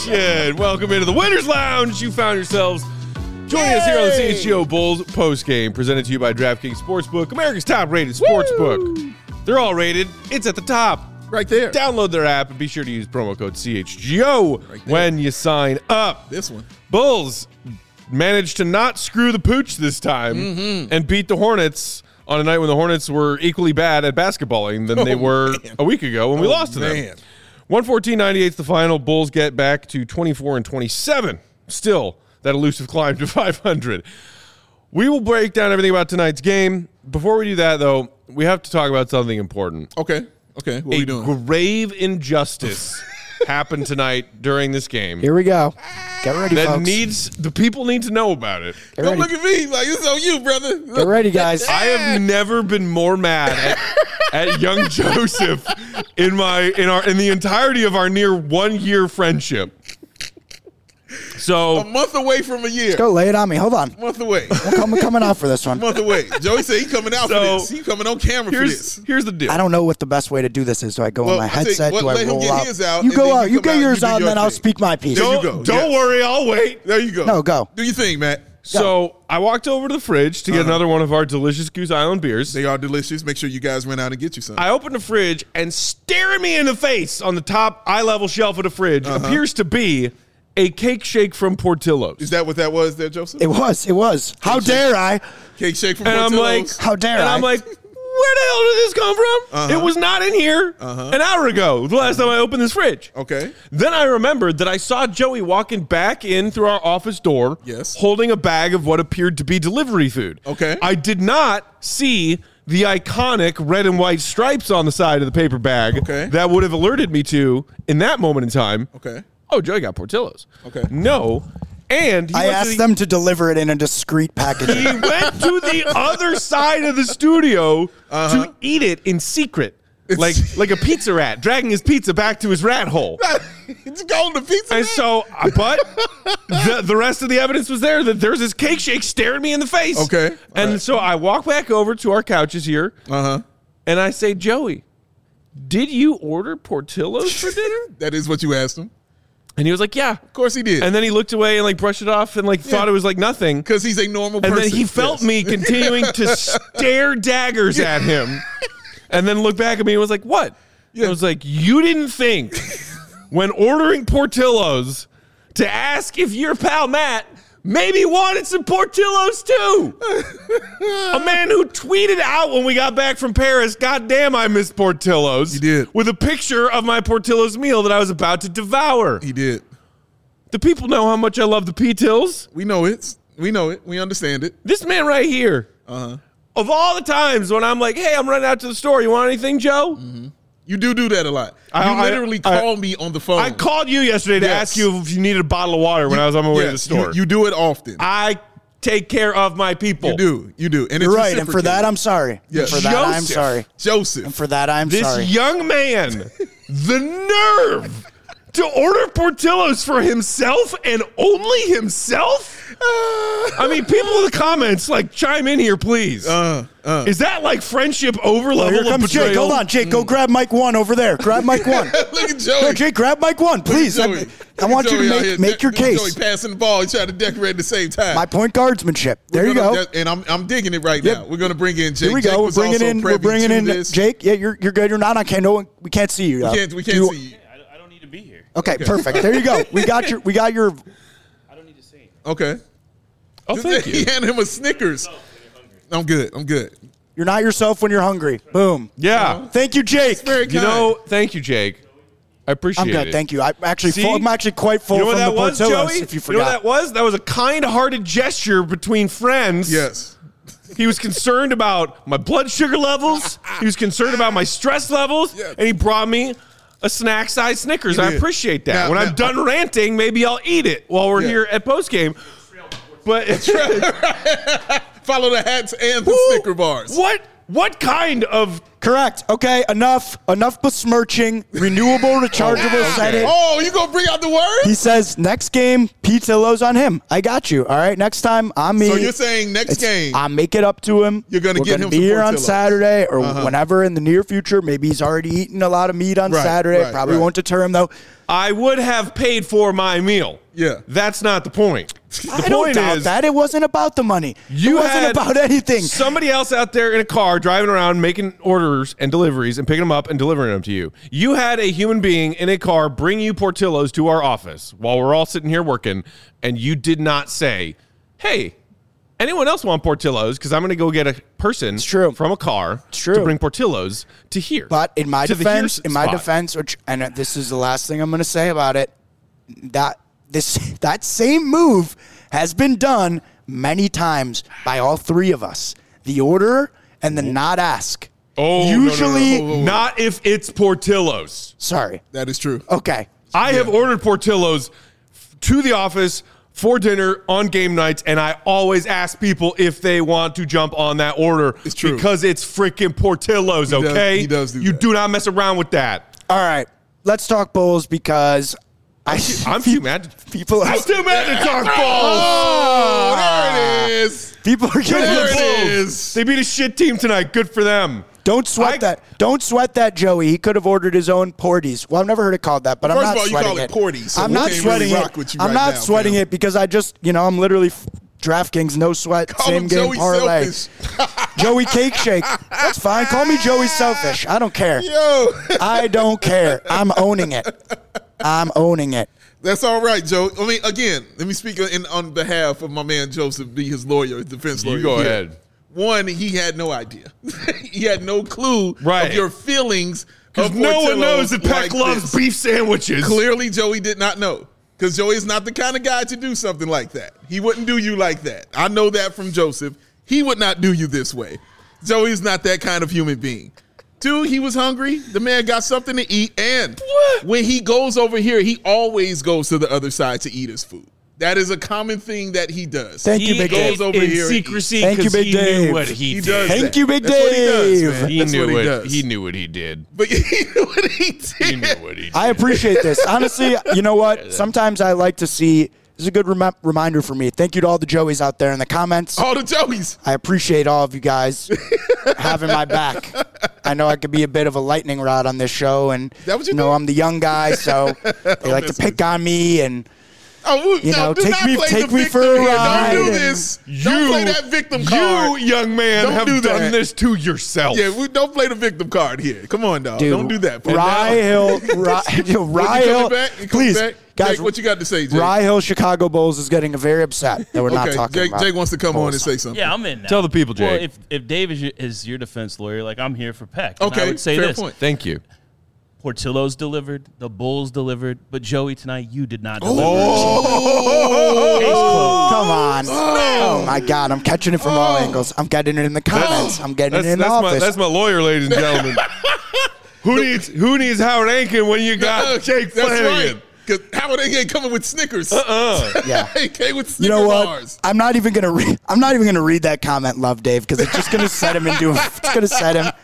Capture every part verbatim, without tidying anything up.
Nation. Welcome into the Winners Lounge. You found yourselves joining Yay! us here on the C H G O Bulls postgame, presented to you by DraftKings Sportsbook, America's top-rated sportsbook. Woo! They're all rated. It's at the top. Right there. Download their app and be sure to use promo code C H G O right when you sign up. This one. Bulls managed to not screw the pooch this time mm-hmm. and beat the Hornets on a night when the Hornets were equally bad at basketballing than oh, they were man. a week ago when oh, we lost to man. them. one fourteen ninety-eight is the final. Bulls get back to twenty-four and twenty-seven. Still that elusive climb to five hundred. We will break down everything about tonight's game. Before we do that, though, we have to talk about something important. Okay. Okay. What a are we doing? Grave injustice happened tonight during this game. Here we go. Get ready, that folks. needs the people need to know about it. Get Don't ready. Look at me like it's on you, brother. Get ready, guys. I have never been more mad at, at young Joseph in my in our in the entirety of our near one year friendship. So a month away from a year. Let's go lay it on me. Hold on. A month away. I'm coming out for this one. A month away. Joey said he's coming out so, for this. He's coming on camera for this. Here's the deal. I don't know what the best way to do this is. Do I go well, on my headset? Well, do I let roll him get out? his out? You go out. You, you get out, yours you out, and then thing. I'll speak my piece. There don't, you go. Don't yes. worry. I'll wait. There you go. No, go. Do your thing, Matt. So go. I walked over to the fridge to get uh-huh. another one of our delicious Goose Island beers. They are delicious. Make sure you guys run out and get you some. I opened the fridge, and staring me in the face on the top eye-level shelf of the fridge uh-huh. appears to be a cake shake from Portillo's. Is that what that was there, Joseph? It was. It was. Cake How shake. dare I? Cake shake from and Portillo's. I'm like, How dare and I? I'm like, where the hell did this come from? Uh-huh. It was not in here uh-huh. an hour ago, the last time I opened this fridge. Okay. Then I remembered that I saw Joey walking back in through our office door yes. holding a bag of what appeared to be delivery food. Okay. I did not see the iconic red and white stripes on the side of the paper bag okay. that would have alerted me to, in that moment in time, okay. oh, Joey got Portillo's. Okay. No. And he I asked the, them to deliver it in a discreet package. He went to the other side of the studio uh-huh. to eat it in secret. It's, like like a pizza rat, dragging his pizza back to his rat hole. It's going to pizza And rat. so, but the, the rest of the evidence was there that there's this cake shake staring me in the face. Okay. All and right. so I walk back over to our couches here. Uh-huh. And I say, Joey, did you order Portillo's for dinner? That is what you asked him. And he was like, yeah. Of course he did. And then he looked away and like brushed it off and like yeah. thought it was like nothing. Because he's a normal and person. And then he felt yes. me continuing to stare daggers at him. And then looked back at me and was like, what? Yeah. I was like, you didn't think when ordering Portillo's to ask if your pal Matt maybe wanted some Portillo's too. A man who tweeted out when we got back from Paris, God damn, I missed Portillo's. He did. With a picture of my Portillo's meal that I was about to devour. He did. Do people know how much I love the P-Tills? We know it. We know it. We understand it. This man right here, uh-huh. of all the times when I'm like, hey, I'm running out to the store. You want anything, Joe? Mm-hmm. You do do that a lot. You I, literally I, call I, me on the phone. I called you yesterday to yes. ask you if you needed a bottle of water when you, I was on my way yes, to the store. You, you do it often. I take care of my people. You do. You do. And You're it's right. And for that, I'm sorry. Yes. And for that, Joseph. I'm sorry. Joseph. And for that, I'm this sorry. This young man, the nerve to order Portillo's for himself and only himself? Uh, I mean, people in the comments, like, chime in here, please. Uh, uh. Is that like friendship over well, level here comes of betrayal? Jake. Hold on, Jake. Go mm. grab Mike one over there. Grab Mike one. Look at Joey. No, Jake, grab Mike one, please. I, I want Joey you to make, make your Joey case. Joey passing the ball. He's trying to decorate at the same time. My point guardsmanship. There We're you gonna, go. And I'm I'm digging it right yep. now. We're going to bring in Jake. Here we Jake go. We're was bringing also in. We're bringing in this. Jake. Yeah, you're you're good. You're not on camera. No, we can't see you. We can't. We can't you, see you. I don't need to be here. Okay, okay, perfect. There you go. We got your. We got your. I don't need to say anything. Okay. Oh, thank you. He handed him a Snickers. I'm good. I'm good. You're not yourself when you're hungry. Boom. Yeah. Uh-huh. Thank you, Jake. Very kind. You know, thank you, Jake. I appreciate I'm good. it. Thank you. I'm actually See? full, I'm actually quite full you know from what the that was, Portillo's, Joey? if you You forgot. know what that was? That was a kind-hearted gesture between friends. Yes. He was concerned about my blood sugar levels. He was concerned about my stress levels. Yes. And he brought me a snack-sized Snickers. I appreciate that. Now, when now, I'm done uh, ranting, maybe I'll eat it while we're yeah. here at postgame. But follow the hats and the Who, Snicker bars. What What kind of Correct. Okay, enough. Enough besmirching. Renewable, rechargeable, okay. said it. Oh, you gonna bring out the word? He says, next game, Pitillo's on him. I got you. All right, next time, I'm me. So you're saying next It's- game? I'll make it up to him. You're gonna We're get gonna him be some here on Portillo's. Saturday or Uh-huh. whenever in the near future. Maybe he's already eaten a lot of meat on Right, Saturday. right, Probably right. won't deter him, though. I would have paid for my meal. Yeah. That's not the point. The I don't point doubt is that. It wasn't about the money. you it wasn't had about anything. somebody else out there in a car driving around making orders and deliveries and picking them up and delivering them to you. You had a human being in a car bring you Portillo's to our office while we're all sitting here working, and you did not say, hey, anyone else want Portillo's? Because I'm going to go get a person true. from a car It's true. to bring Portillo's to here. But in my to the defense, here in my spot. defense, which and this is the last thing I'm going to say about it, that this that same move has been done many times by all three of us. The order and the not ask. Oh, no, no, no, usually, no, no, no. Not if it's Portillo's. sorry. That is true. Okay. I have ordered Portillo's f- to the office for dinner on game nights, and I always ask people if they want to jump on that order. It's true. Because it's freaking Portillo's, He does- okay? he does do You that. do not mess around with that. All right. Let's talk Bulls because I I'm too mad. To, people I'm too mad to talk balls. Oh, there it is. people are Good getting There for the it Bulls. is. They beat a shit team tonight. Good for them. Don't sweat I- that. Don't sweat that, Joey. He could have ordered his own Porties. Well, I've never heard it called that, but I'm First not of all, you sweating call it Porties, so I'm we not can't sweating really it. rock with you I'm right not now, sweating fam. it because I just, you know, I'm literally f- DraftKings, no sweat, Call same him game Joey parlay. Selfish. Joey Cake Shake. That's fine. Call me Joey Selfish. I don't care. Yo, I don't care. I'm owning it. I'm owning it. that's all right, Joe. I mean, again, let me speak in, on behalf of my man Joseph, be his lawyer, his defense lawyer. You go here. ahead. One, he had no idea. he had no clue Right. of your feelings. Because of no one Portillo's knows that Peck like loves this. beef sandwiches. Clearly, Joey did not know. Because Joey is not the kind of guy to do something like that. He wouldn't do you like that. I know that from Joseph. He would not do you this way. Joey's not that kind of human being. Two, he was hungry. The man got something to eat. And when he goes over here, he always goes to the other side to eat his food. That is a common thing that he does. Thank He you, Big goes Dave. over in here secrecy Thank you, 'cause Big he Dave. knew what he, He did. does Thank that. you, Big That's what he does, Dave. man. He That's knew what he what does. he knew what he did. But he knew what he did. He knew what he did. I appreciate this. Honestly, you know what? Sometimes I like to see. This is a good rem- reminder for me. Thank you to all the Joeys out there in the comments. All the Joeys. I appreciate all of you guys having my back. I know I could be a bit of a lightning rod on this show, and That what you know do? I'm the young guy, so they like to mess pick on me. And Oh, You no, know, do take not me- play take the me victim for a here. ride Don't do and- this. Don't play that victim you, card. young man, Don't have do done that. this to yourself. Yeah, we don't play the victim card here. Come on, dog. dude, Don't do that. Put Rye down. Hill, Rye, yo, What, Rye you Hill, coming back? You coming please, back? guys. Jake, what you got to say, Jake? Rye Hill Chicago Bulls is getting very upset that we're not Okay, talking Jake, about. Jake wants to come on and Bulls. say something. Yeah, I'm in now. Tell the people, Well, Jake. if if Dave is your, is your defense lawyer, like I'm here for Peck. And I Okay, would say fair this. point. Thank you. Portillo's delivered, the Bulls delivered, but Joey tonight you did not deliver. Oh. Case closed. Come on. Oh, my God. I'm catching it from all angles. I'm getting it in the comments. I'm getting That's, it in that's the my office. that's my lawyer, ladies and gentlemen. who needs who needs Howard Ankin when you got Jake That's Flanagan? right. Because Howard ain't coming with Snickers. Uh-uh. Yeah. He came with Snickers You know what? bars. I'm not even gonna read. I'm not even gonna read that comment, Love Dave, because it's just gonna set him into. It's gonna set him.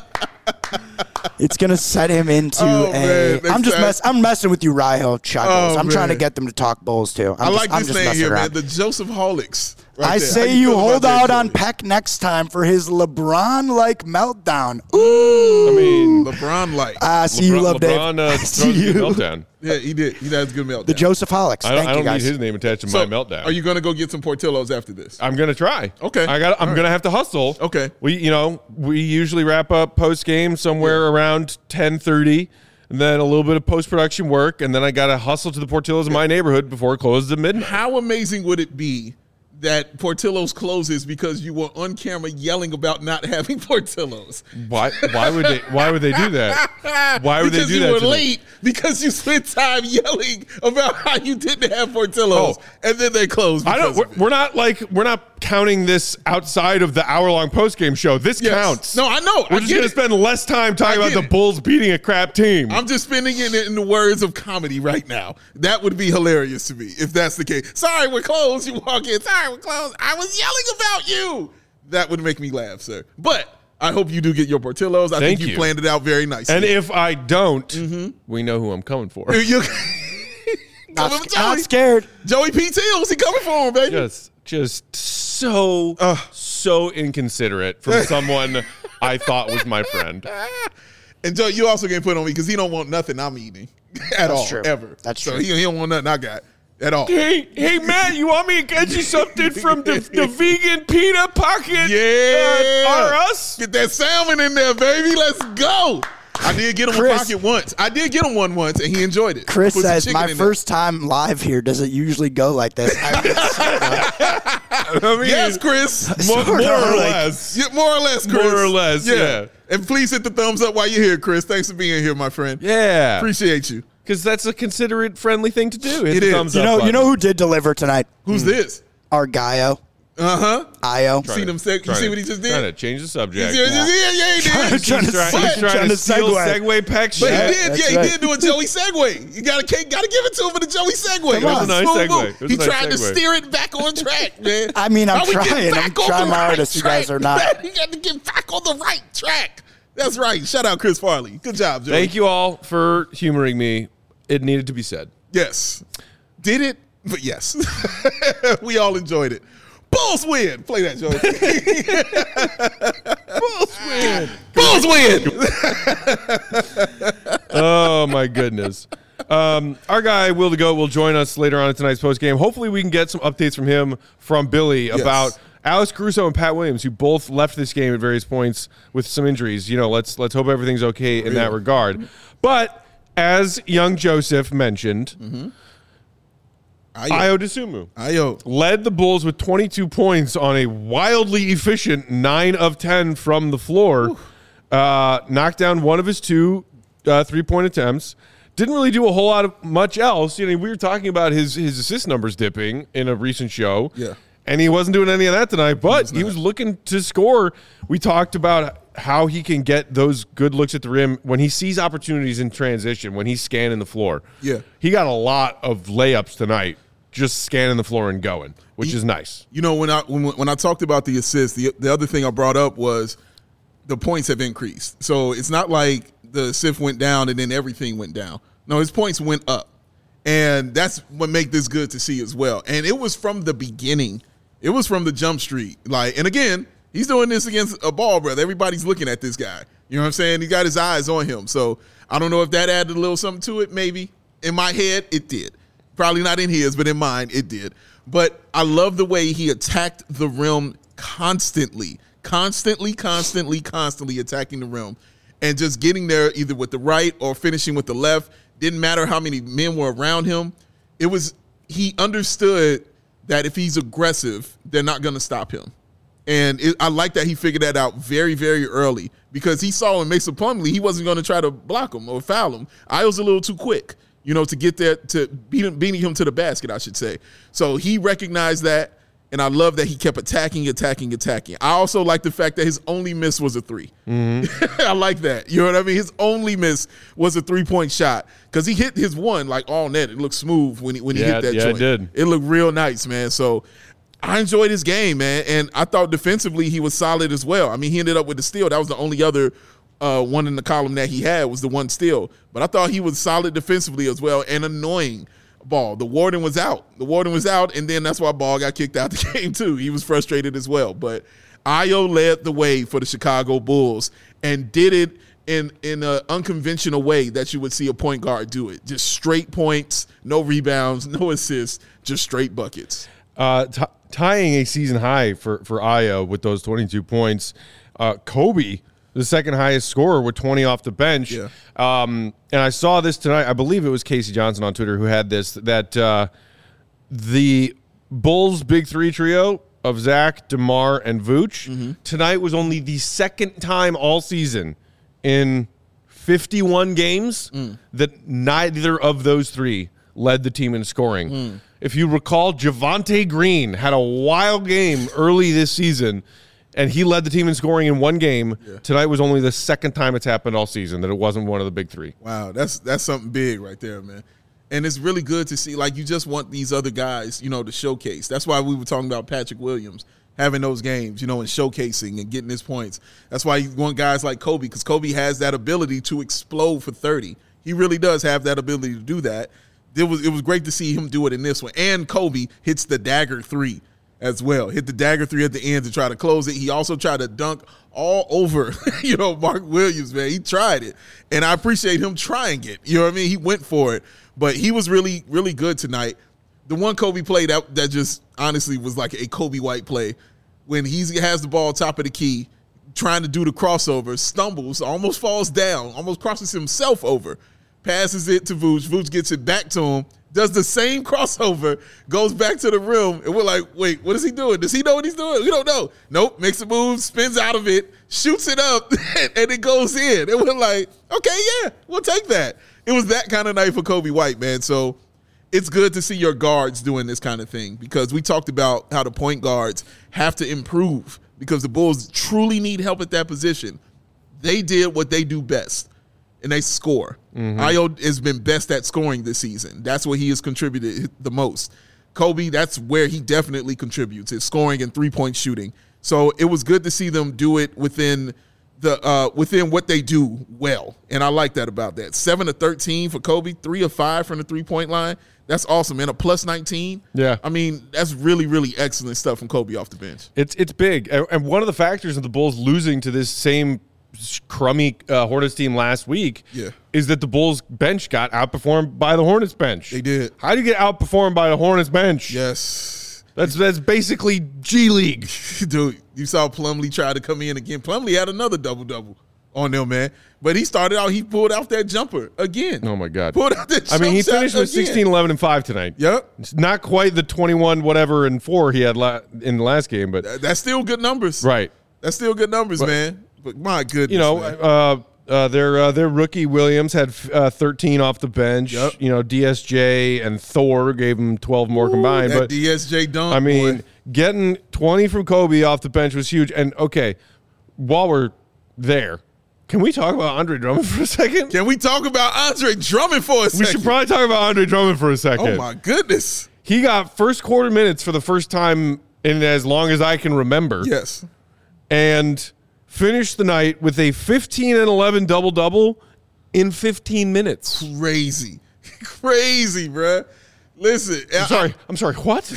It's gonna set him into Oh, a. man, I'm just that's- mess. I'm messing with you, Rye Hill Chuggles. Oh, I'm trying to man. get them to talk Bulls too. I'm I just, like I'm this just name messing here, around. man. The Joseph Holics. Right I there. say How you feel about hold that, out on Joey? Peck next time for his LeBron-like meltdown. Ooh. I mean, LeBron like. I see you, LeBron, Love Dave. LeBron uh, I throws see a good you. meltdown. yeah, he did. He had a good meltdown. The Joseph Holics. I don't, Thank I you don't guys. need his name attached to So, my meltdown. Are you going to go get some Portillo's after this? I'm gonna try. Okay. I got. I'm All right. gonna have to hustle. Okay. We, you know, we usually wrap up post game somewhere around ten thirty, and then a little bit of post production work, and then I got to hustle to the Portillo's in my neighborhood before it closes at midnight. How amazing would it be that Portillo's closes because you were on camera yelling about not having Portillo's? Why? Why would they? Why would they do that? Why would they because do you that were to me? late because you spent time yelling about how you didn't have Portillo's, Oh. and then they closed. I don't. because We're, of it. we're not like we're not counting this outside of the hour long post game show. This Yes. counts. No, I know. We're I just get gonna it. spend less time talking I about get the it. Bulls beating a crap team. I'm just spinning it in the words of comedy right now. That would be hilarious to me if that's the case. Sorry, we're closed. You walk in. Sorry, we're closed. I was yelling about you. That would make me laugh, sir. But I hope you do get your Portillo's. I Thank think you, you. planned it out very nicely. And if I don't, Mm-hmm. we know who I'm coming for. You, Not, coming for sc- not Joey. scared. Joey P. Tills, he coming for him, baby. Just, just so, so inconsiderate from someone I thought was my friend. And Joe, you also getting put on me because he don't want nothing I'm eating at all, true. ever. That's so true. He, he don't want nothing I got at all. Hey, hey, Matt, you want me to get you something from the, the vegan pita pocket? Yeah. Uh, R Us? Get that salmon in there, baby. Let's go. I did get him Chris- a pocket once. I did get him one once, and he enjoyed it. Chris Put some says, chicken my in first time live here doesn't usually go like this. I, I mean, there. Yes, Chris. more, Sort more of, or like- less. Yeah, more or less, Chris. More or less, yeah. And please hit the thumbs up while you're here, Chris. Thanks for being here, my friend. Yeah. Appreciate you. Because that's a considerate, friendly thing to do. Hit It the is. thumbs you up know, you button. know who did deliver tonight? Who's this? Our Gaio. Uh-huh. Io. See them seg- you Trying see to- what he just Trying did? to change the You subject. see what he just did? Yeah, he did. Trying to He's trying, But- he's trying trying to to steal segue. segue peck But shit. he Yeah, did, that's yeah, he right. did do a Joey segue. You gotta gotta give it to him for the Joey segue. Come That on. was It was a nice smooth segue. move. It was He a nice tried to segue. steer it back on track, man. I mean, I'm How we get trying. back I'm on trying the my right hardest. You guys track? are not. He got to get back on the right track. That's right. Shout out Chris Farley. Good job, Joey. Thank you all for humoring me. It needed to be said. Yes. Did it? But yes. We all enjoyed it. Bulls win. Play that, Joey. Bulls win. Bulls win. Oh, my goodness. Um, our guy, Will the Goat, will join us later on in tonight's postgame. Hopefully, we can get some updates from him, from Billy, about Alex Caruso and Pat Williams, who both left this game at various points with some injuries. You know, let's let's hope everything's okay in that regard. But as young Joseph mentioned, Ayo. Ayo Dosunmu Ayo. led the Bulls with twenty-two points on a wildly efficient nine of ten from the floor. Uh, knocked down one of his two uh, three-point attempts. Didn't really do a whole lot of much else. You know, we were talking about his his assist numbers dipping in a recent show. Yeah. And he wasn't doing any of that tonight, but he was looking to score. We talked about how he can get those good looks at the rim when he sees opportunities in transition, when he's scanning the floor. Yeah. He got a lot of layups tonight, just scanning the floor and going, which He- is nice. You know, when I when, when I talked about the assists, the the other thing I brought up was the points have increased. So it's not like the assist went down and then everything went down. No, his points went up. And that's what make this good to see as well. And it was from the beginning. It was from the jump street. Like, and again, he's doing this against a ball brother. Everybody's looking at this guy. You know what I'm saying? He got his eyes on him. So I don't know if that added a little something to it, maybe. In my head, it did. Probably not in his, but in mine, it did. But I love the way he attacked the rim constantly. Constantly, constantly, constantly attacking the rim. And just getting there either with the right or finishing with the left. Didn't matter how many men were around him. It was, he understood that if he's aggressive, they're not going to stop him. And it, I like that he figured that out very, very early because he saw in Mason Plumlee, he wasn't going to try to block him or foul him. I was a little too quick, you know, to get there, to beat him, beating him to the basket, I should say. So he recognized that, and I love that he kept attacking, attacking, attacking. I also like the fact that his only miss was a three. Mm-hmm. I like that. You know what I mean? His only miss was a three-point shot because he hit his one like all net. It looked smooth when he when he Yeah, hit that yeah, it joint. did. It looked real nice, man. So I enjoyed his game, man, and I thought defensively he was solid as well. I mean, he ended up with the steal. That was the only other uh, one in the column that he had was the one steal. But I thought he was solid defensively as well and annoying. Ball. The Warden was out. The Warden was out, and then that's why Ball got kicked out the game too. He was frustrated as well. But Ayo led the way for the Chicago Bulls and did it in in an unconventional way that you would see a point guard do it. Just straight points, no rebounds, no assists, just straight buckets. Uh, t- tying a season high for, for Ayo with those twenty-two points. Uh, Kobe, the second highest scorer with twenty off the bench. Yeah. Um, and I saw this tonight. I believe it was Casey Johnson on Twitter who had this, that uh, the Bulls' big three trio of Zach, DeMar, and Vooch Mm-hmm. tonight was only the second time all season in fifty-one games Mm. that neither of those three led the team in scoring. Mm. If you recall, Javonte Green had a wild game early this season, and he led the team in scoring in one game. Yeah. Tonight was only the second time it's happened all season that it wasn't one of the big three. Wow, that's that's something big right there, man. And it's really good to see. Like, you just want these other guys, you know, to showcase. That's why we were talking about Patrick Williams having those games, you know, and showcasing and getting his points. That's why you want guys like Kobe, because Kobe has that ability to explode for thirty. He really does have that ability to do that. It was it was great to see him do it in this one. And Kobe hits the dagger three as well. Hit the dagger three at the end to try to close it. He also tried to dunk all over, you know, Mark Williams, man. He tried it. And I appreciate him trying it. You know what I mean? He went for it. But he was really, really good tonight. The one Kobe play that, that just honestly was like a Kobe White play, when he has the ball top of the key, trying to do the crossover, stumbles, almost falls down, almost crosses himself over, passes it to Vooch. Vooch gets it back to him, does the same crossover, goes back to the rim, and we're like, wait, what is he doing? Does he know what he's doing? We don't know. Nope, makes a move, spins out of it, shoots it up, and it goes in. And we're like, okay, yeah, we'll take that. It was that kind of night for Kobe White, man. So it's good to see your guards doing this kind of thing, because we talked about how the point guards have to improve because the Bulls truly need help at that position. They did what they do best, and they score. Mm-hmm. Ayo has been best at scoring this season. That's what he has contributed the most. Kobe, that's where he definitely contributes, is scoring and three-point shooting. So it was good to see them do it within the uh, within what they do well, and I like that about that. seven of thirteen for Kobe, three of five from the three-point line. That's awesome, and a plus nineteen. Yeah. I mean, that's really, really excellent stuff from Kobe off the bench. It's it's big. And and one of the factors of the Bulls losing to this same crummy uh, Hornets team last week yeah. is that the Bulls bench got outperformed by the Hornets bench. They did. How do you get outperformed by the Hornets bench? Yes. That's that's basically G League. Dude, you saw Plumlee try to come in again. Plumlee had another double-double on them, man. But he started out, he pulled off that jumper again. Oh, my God. Pulled out that I mean, he finished with again. sixteen, eleven, and five tonight. Yep. It's not quite the twenty-one, whatever, and four he had la- in the last game, but That's still good numbers. right. That's still good numbers, But- man. But my goodness, You know, man. uh, uh, their uh, their rookie Williams had uh, thirteen off the bench. Yep. You know, D S J and Thor gave him twelve more combined. that But D S J dunk, I mean, boy. getting twenty from Kobe off the bench was huge. And okay, while we're there, can we talk about Andre Drummond for a second? Can we talk about Andre Drummond for a We second? should probably talk about Andre Drummond for a second. Oh, my goodness. He got first quarter minutes for the first time in as long as I can remember. Yes. And finished the night with a fifteen and eleven double-double in fifteen minutes. Crazy. Crazy, bruh. Listen. I'm sorry. I'm sorry. What?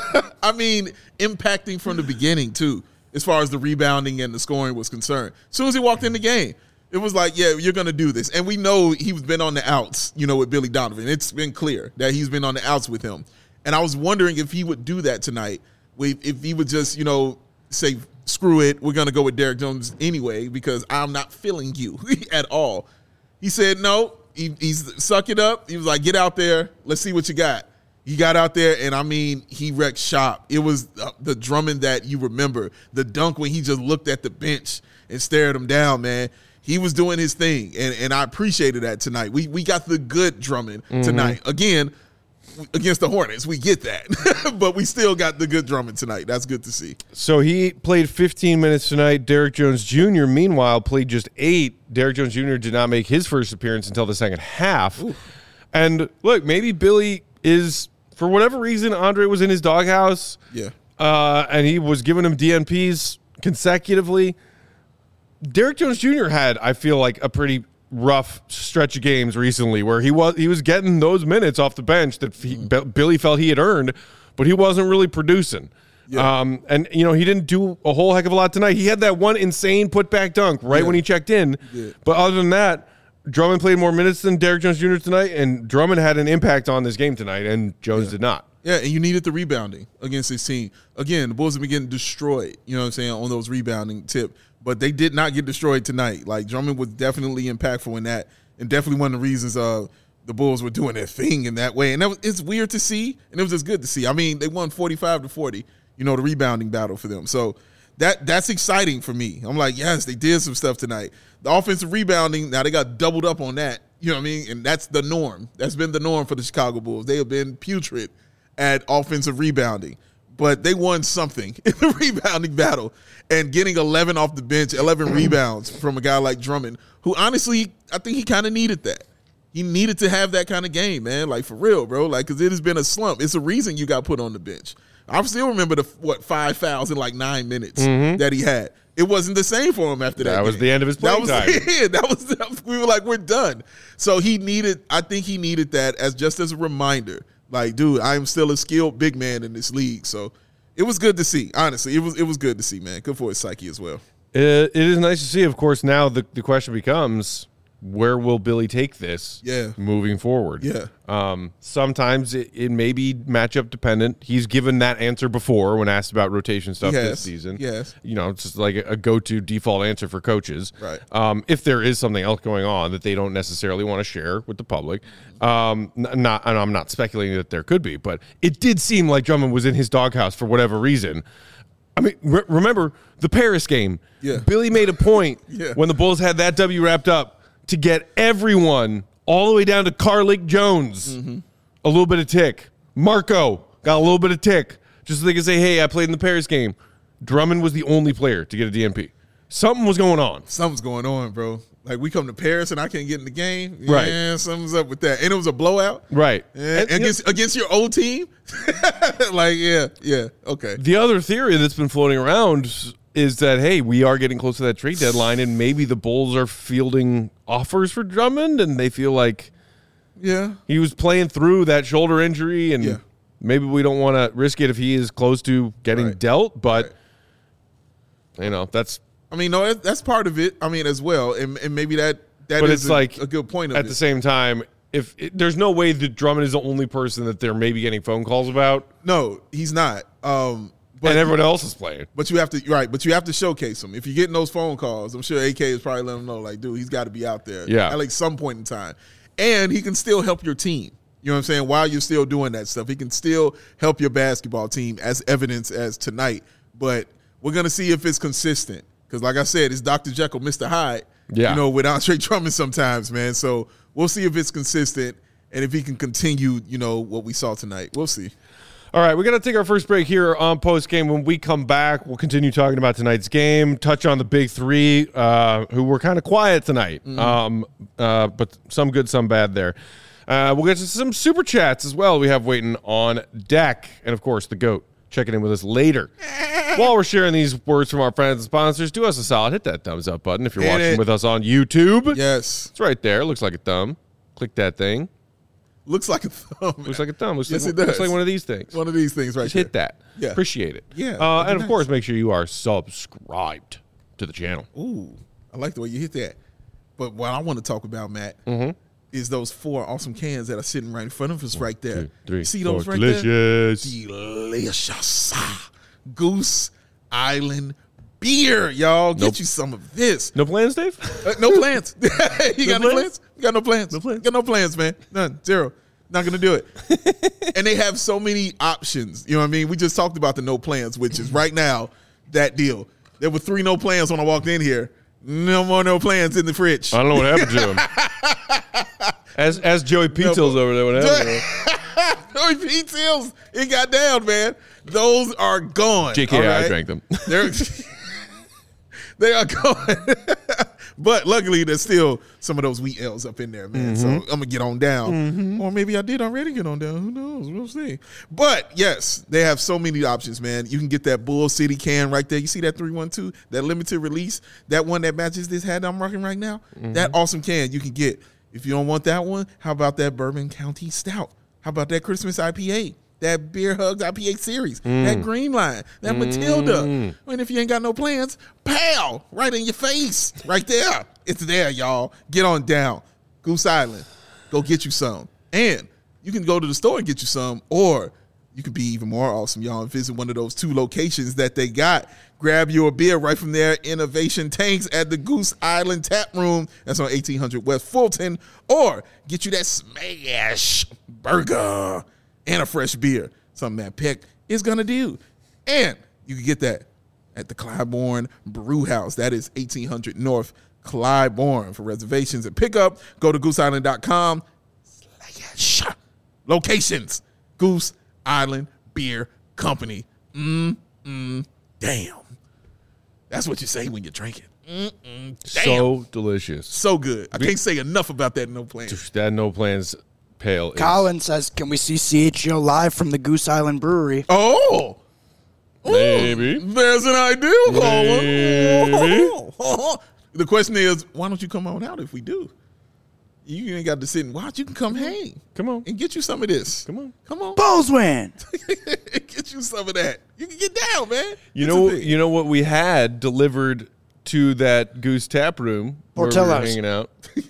I mean, impacting from the beginning, too, as far as the rebounding and the scoring was concerned. As soon as he walked in the game, it was like, yeah, you're going to do this. And we know he's been on the outs, you know, with Billy Donovan. It's been clear that he's been on the outs with him. And I was wondering if he would do that tonight, if he would just, you know, say, screw it, we're going to go with Derrick Jones anyway because I'm not feeling you at all. He said no. He, he's suck it up. He was like, get out there. Let's see what you got. He got out there, and, I mean, he wrecked shop. It was the Drummond that you remember, the dunk when he just looked at the bench and stared him down, man. He was doing his thing, and, and I appreciated that tonight. We we got the good Drummond mm-hmm. tonight. Again, against the Hornets, we get that. But we still got the good Drummond tonight. That's good to see. So he played fifteen minutes tonight. Derrick Jones Junior, meanwhile, played just eight. Derrick Jones Junior did not make his first appearance until the second half. Ooh. And, look, maybe Billy is, for whatever reason, Andre was in his doghouse. Yeah. Uh, and he was giving him D N Ps consecutively. Derrick Jones Junior had, I feel like, a pretty rough stretch of games recently where he was he was getting those minutes off the bench that he, mm. Billy felt he had earned, but he wasn't really producing. Yeah. Um, and, you know, he didn't do a whole heck of a lot tonight. He had that one insane putback dunk right yeah. when he checked in. Yeah. But other than that, Drummond played more minutes than Derrick Jones Junior tonight, and Drummond had an impact on this game tonight, and Jones yeah. did not. Yeah, and you needed the rebounding against this team. Again, the Bulls have been getting destroyed, you know what I'm saying, on those rebounding tip. But they did not get destroyed tonight. Like, Drummond was definitely impactful in that, and definitely one of the reasons uh, the Bulls were doing their thing in that way. And that was, it's weird to see, and it was just good to see. I mean, they won forty-five to forty, you know, the rebounding battle for them. So that that's exciting for me. I'm like, yes, they did some stuff tonight. The offensive rebounding, now they got doubled up on that, you know what I mean? And that's the norm. That's been the norm for the Chicago Bulls. They have been putrid at offensive rebounding. But they won something in the rebounding battle, and getting eleven off the bench, eleven rebounds from a guy like Drummond, who honestly, I think he kind of needed that. He needed to have that kind of game, man, like for real, bro, like because it has been a slump. It's a reason you got put on the bench. I still remember the what five fouls in like nine minutes Mm-hmm. that he had. It wasn't the same for him after that. That was game. the end of his playing that time. was, Yeah, that was. That was we were like, we're done. So he needed. I think he needed that as just as a reminder. Like, dude, I am still a skilled big man in this league. So it was good to see. Honestly, it was it was good to see, man. Good for his psyche as well. It, it is nice to see. Of course, now the, the question becomes, where will Billy take this Yeah. moving forward? Yeah. Um, sometimes it, it may be matchup dependent. He's given that answer before when asked about rotation stuff Yes. this season. Yes. You know, it's just like a, a go-to default answer for coaches. Right. Um, if there is something else going on that they don't necessarily want to share with the public. Um, n- not, and I'm not speculating that there could be, but it did seem like Drummond was in his doghouse for whatever reason. I mean, re- remember the Paris game. Yeah. Billy made a point Yeah. when the Bulls had that W wrapped up to get everyone all the way down to Carlick Jones Mm-hmm. a little bit of tick. Marco got a little bit of tick just so they could say, hey, I played in the Paris game. Drummond was the only player to get a D N P. Something was going on. Something's going on, bro. Like, we come to Paris and I can't get in the game. Right. Yeah, something's up with that. And it was a blowout. Right. Yeah, And- against against your old team. Like, yeah, yeah, okay. The other theory that's been floating around is that, hey, we are getting close to that trade deadline, and maybe the Bulls are fielding offers for Drummond, and they feel like Yeah, he was playing through that shoulder injury, and Yeah. maybe we don't want to risk it if he is close to getting Right. dealt. But, Right. you know, that's I mean, no, that- that's part of it. I mean, as well, and, and maybe that that but is it's a, like a good point of at it. the same time, if it, there's no way that Drummond is the only person that they're maybe getting phone calls about, No, he's not. Um, but and everyone else is playing. But you have to right. But you have to showcase him. If you're getting those phone calls, I'm sure A K is probably letting him know, like, dude, he's got to be out there. Yeah. At like some point in time, and he can still help your team. You know what I'm saying? While you're still doing that stuff, he can still help your basketball team, as evidence as tonight. But we're gonna see if it's consistent. Because, like I said, it's Doctor Jekyll, Mister Hyde. Yeah. You know, with Andre Drummond sometimes, man. So we'll see if it's consistent and if he can continue. You know what we saw tonight. We'll see. All right, we're going to take our first break here on Post Game. When we come back, we'll continue talking about tonight's game, touch on the big three, uh, who were kind of quiet tonight, Mm-hmm. um, uh, but some good, some bad there. Uh, we'll get to some super chats as well we have waiting on deck. And, of course, the GOAT checking in with us later. While we're sharing these words from our friends and sponsors, do us a solid. Hit that thumbs up button if you're Hit watching it. with us on YouTube. Yes. It's right there. Looks like a thumb. Click that thing. Looks like a thumb. Looks like a thumb. Looks, Yes, like, it does. looks like one of these things. One of these things right Just there. hit that. Yeah. Appreciate it. Yeah, Uh, that'd and be of course, nice. make sure you are subscribed to the channel. Ooh, I like the way you hit that. But what I want to talk about, Matt, Mm-hmm. is those four awesome cans that are sitting right in front of us right there. Two, three, See those four. right Delicious. there? Delicious. Ah, Goose Island beer, y'all. Get Nope. you some of this. No plans, Dave? Uh, no plans. you got No no plans? plans? You got no plans? No plans. Got no plans, man. None. Zero. Not gonna do it. And they have so many options. You know what I mean? We just talked about the no plans, which is right now that deal. There were three no plans when I walked in here. No more no plans in the fridge. I don't know what happened to him. As as Joey Pizza's over there, what happened to him? Joey P. Tills, it got down, man. Those are gone. J K, all I right? drank them. They're they are gone. But luckily, there's still some of those wheat L's up in there, man. So I'm gonna get on down, or maybe I did already get on down. Who knows? We'll see. But yes, they have so many options, man. You can get that Bull City can right there. You see that three one two, that limited release, that one that matches this hat I'm rocking right now. That awesome can you can get. If you don't want that one, how about that Bourbon County Stout? How about that Christmas I P A? That Beer Hugs I P A series, that Green Line, that Matilda. And if you ain't got no plans, pow, right in your face, right there. It's there, y'all. Get on down. Goose Island, go get you some. And you can go to the store and get you some, or you could be even more awesome, y'all, and visit one of those two locations that they got. Grab your beer right from their Innovation Tanks at the Goose Island Tap Room. That's on eighteen hundred West Fulton. Or get you that smash burger and a fresh beer. Something that Peck is going to do. And you can get that at the Clybourne Brew House. That is eighteen hundred North Clybourne. For reservations and pickup, go to goose island dot com. Slash locations. Goose Island Beer Company. Mm, mm, damn. That's what you say when you're drinking. Mm, mm, damn. So delicious. So good. I can't say enough about that no plan. That no plans pale is. Colin says, can we see C H G O live from the Goose Island Brewery? Oh. Maybe. Ooh, there's an idea, Colin. Maybe. The question is, why don't you come on out if we do? You ain't got to sit and watch. You can come hang. Come on. And get you some of this. Come on. Come on. Bulls win. Get you some of that. You can get down, man. You It's know, a thing. you know what we had delivered to that Goose Tap Room where we were Portillo's. hanging out.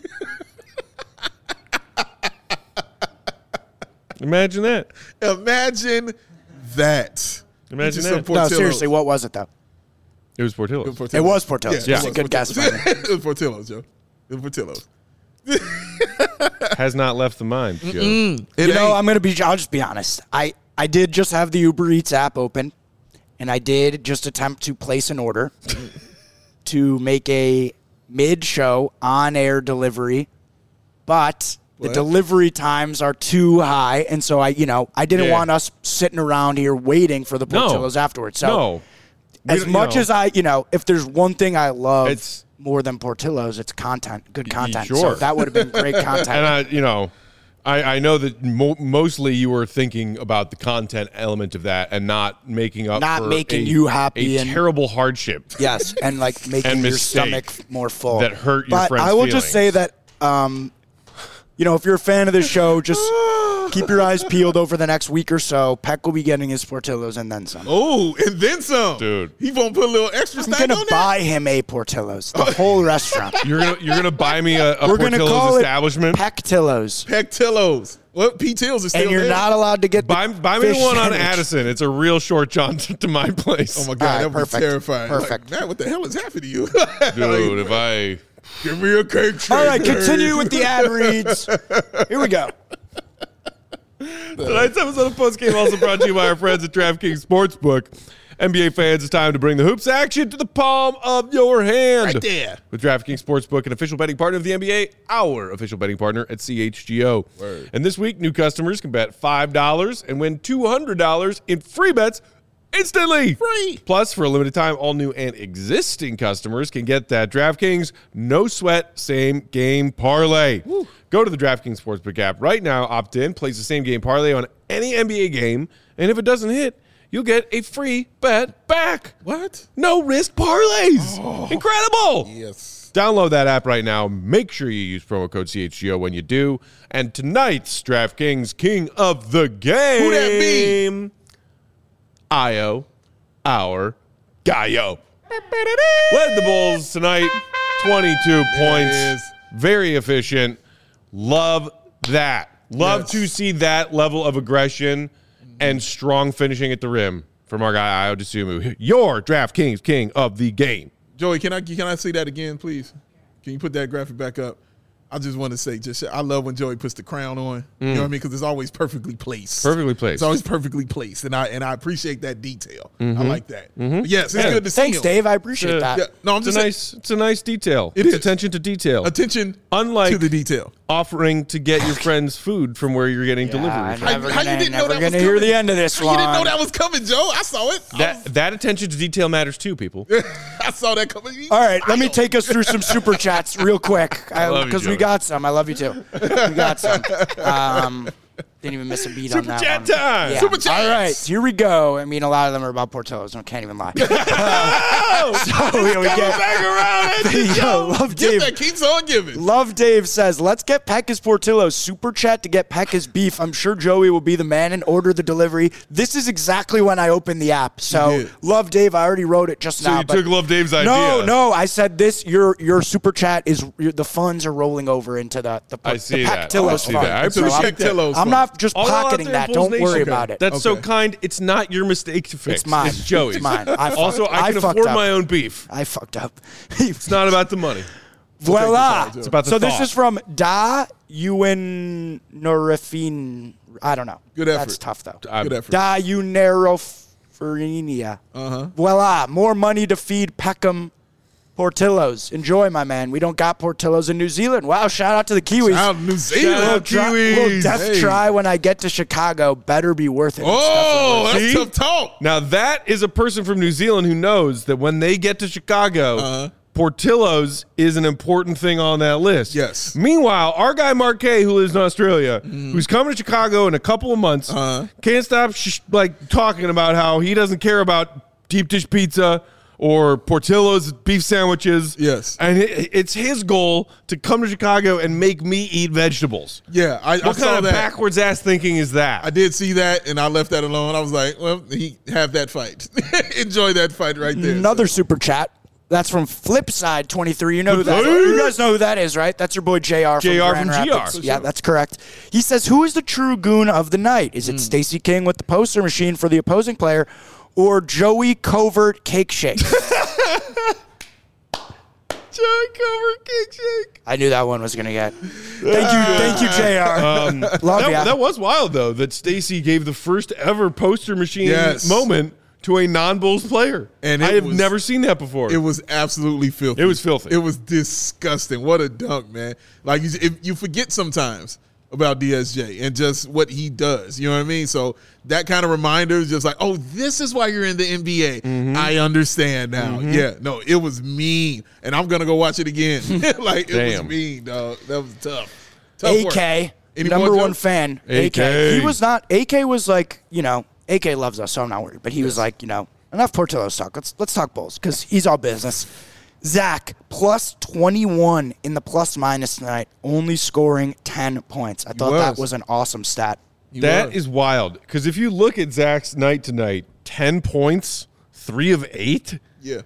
Imagine that. Imagine that. Imagine Get you some that. No, Portillo's. seriously, what was it, though? It was Portillo's. Portillo's. It was Portillo's. Yeah, That's it a good guess. by me. It was Portillo's, Joe. It was Portillo's. Has not left the mind, Joe. It You know, ain't. I'm gonna be. I'll just be honest. I I did just have the Uber Eats app open, and I did just attempt to place an order to make a mid-show on-air delivery, but the What? delivery times are too high, and so I, you know, I didn't Yeah. want us sitting around here waiting for the No. Portillo's afterwards. So No. We as don't- you much know, as I, you know, if there's one thing I love It's- more than Portillo's, it's content, good content. sure. So that would have been great content. And I, you know, I, I know that mo- mostly you were thinking about the content element of that and not making up Not for making a, you happy a and- terrible hardship. Yes, and like making And your mistake stomach more full. that hurt your but friend's I will just say feelings. that, um, you know, if you're a fan of this show, just keep your eyes peeled over the next week or so. Peck will be getting his Portillo's and then some. Oh, and then some. Dude. He won't put a little extra I'm stuff gonna on buy him a Portillo's, the whole restaurant. You're gonna you're gonna buy me a, a We're gonna Portillo's call establishment. it Pecktillo's, that? Pectillos. What? P. Tills is still and you're there. not allowed to get the buy buy me the fish one on sandwich. Addison. It's a real short jaunt to my place. Oh, my God. All right, that was perfect. terrifying. Perfect. Like, man, what the hell is happening to you? Dude, if I Give me a cake shake. All right, continue with the ad reads. Here we go. Tonight's episode of Post Game also brought to you by our friends at DraftKings Sportsbook. N B A fans, it's time to bring the hoops action to the palm of your hand. Right there. With DraftKings Sportsbook, an official betting partner of the N B A, our official betting partner at C H G O. Word. And this week, new customers can bet five dollars and win two hundred dollars in free bets instantly. Free. Plus, for a limited time, all new and existing customers can get that DraftKings no sweat same game parlay. Go to the DraftKings Sportsbook app right now, opt in, place the same game parlay on any N B A game, and if it doesn't hit, you'll get a free bet back. What? No risk parlays. Incredible. Yes. Download that app right now. Make sure you use promo code C H G O when you do. And tonight's DraftKings King of the Game. Who that be? Io, our Gallo. Led the Bulls tonight, twenty-two points. is. Very efficient. Love that. Love Yes. to see that level of aggression and strong finishing at the rim from our guy, Io DeSumo. Your DraftKings King of the Game. Joey, can I can I see that again, please? Can you put that graphic back up? I just want to say, just I love when Joey puts the crown on. You know what I mean? Because it's always perfectly placed. Perfectly placed. It's always perfectly placed, and I and I appreciate that detail. I like that. But yes, it's Yeah. good to see Thanks, him. Dave. I appreciate Uh, that. Yeah, no, I'm It's just a saying, nice, it's a nice detail. It it's is. attention to detail. attention. Unlike to the detail. offering to get your friends food from where you're getting Yeah, delivery. I'm from. never How- how you gonna, didn't know never that was gonna hear coming? the end of this You one. didn't know that was coming, Joe. I saw it. I, That that attention to detail matters too, people. was- I saw that coming. All right, let me take us through some super chats real quick love you, because we Joey. got some. I love you too. We got some. Um, didn't even miss a beat on Super that chat one. time. Yeah. Super chats. All right, here we go. I mean, a lot of them are about Portillo's. I can't even lie. Uh, so here we Coming get. back around it. Yo, love Give Dave. that keeps on giving. Love Dave says, let's get Pecca's Portillo's super chat to get Pecca's beef. I'm sure Joey will be the man and order the delivery. This is exactly when I opened the app. So did. Love Dave, I already wrote it just So now. you but- took Love Dave's idea. No, no, I said this. Your your super chat is your, the funds are rolling over into the the, I see the that. Pectillo's I see fund. that. I So I'm- appreciate that. Pectillo's I'm fund. not just All out pocketing there, that. Bulls Don't Nation. worry Okay. about it. That's so Okay. kind. It's not your mistake to fix. It's mine. It's Joey's. It's mine. I fucked- also, I I can fucked afford up. my own beef. I fucked up. It's not about the money. Voila. It's about the so this thought. is from Da Ewan Norifin. I don't know. Good effort. That's tough though. I'm- Good effort. Da Uneroferinia. Uh-huh. Voila. More money to feed Peckham Portillo's. Enjoy, my man. We don't got Portillo's in New Zealand. Wow, shout out to the Kiwis. Out New Shout Zealand. out Little, dri- Kiwis. little death Hey. try when I get to Chicago. Better be worth it. It's Oh, definitely that's See? tough talk. Now that is a person from New Zealand who knows that when they get to Chicago, Uh-huh. Portillo's is an important thing on that list. Yes. Meanwhile, our guy Marquet, who lives in Australia, mm. who's coming to Chicago in a couple of months, uh-huh. can't stop sh- like talking about how he doesn't care about deep dish pizza or Portillo's beef sandwiches. Yes. And it, it's his goal to come to Chicago and make me eat vegetables. Yeah, I, what I kind saw of that. backwards ass thinking is that? I did see that, and I left that alone. I was like, well, he have that fight. Enjoy that fight right there. Another so. super chat. That's from Flipside twenty-three. You know who that is? You guys know who that is, right? That's your boy J R from J R Grand from G R. Rapids. Yeah, that's correct. He says, who is the true goon of the night? Is it mm. Stacey King with the poster machine for the opposing player or Joey Covert Cake Shake? Joey Covert Cake Shake. I knew that one was going to get. Thank you, thank you, J R. Um, Love that, ya. that was wild, though, that Stacey gave the first ever poster machine yes. moment to a non-Bulls player. And I have was, never seen that before. It was absolutely filthy. It was filthy. It was disgusting. What a dunk, man. Like, you, if you forget sometimes about D S J and just what he does. You know what I mean? So that kind of reminder is just like, oh, this is why you're in the N B A. Mm-hmm. I understand now. Mm-hmm. Yeah, no, it was mean. And I'm going to go watch it again. Like, it Damn. was mean, dog. That was tough. tough A K, number one fan. A K. He was not, A K was like, you know, A K loves us, so I'm not worried. But he yes. was like, you know, enough Portillo's talk. Let's let's talk Bulls because he's all business. Zach, plus twenty-one in the plus minus tonight, only scoring ten points. I thought that was an awesome stat. He that was. is wild because if you look at Zach's night tonight, ten points, three of eight. Yeah.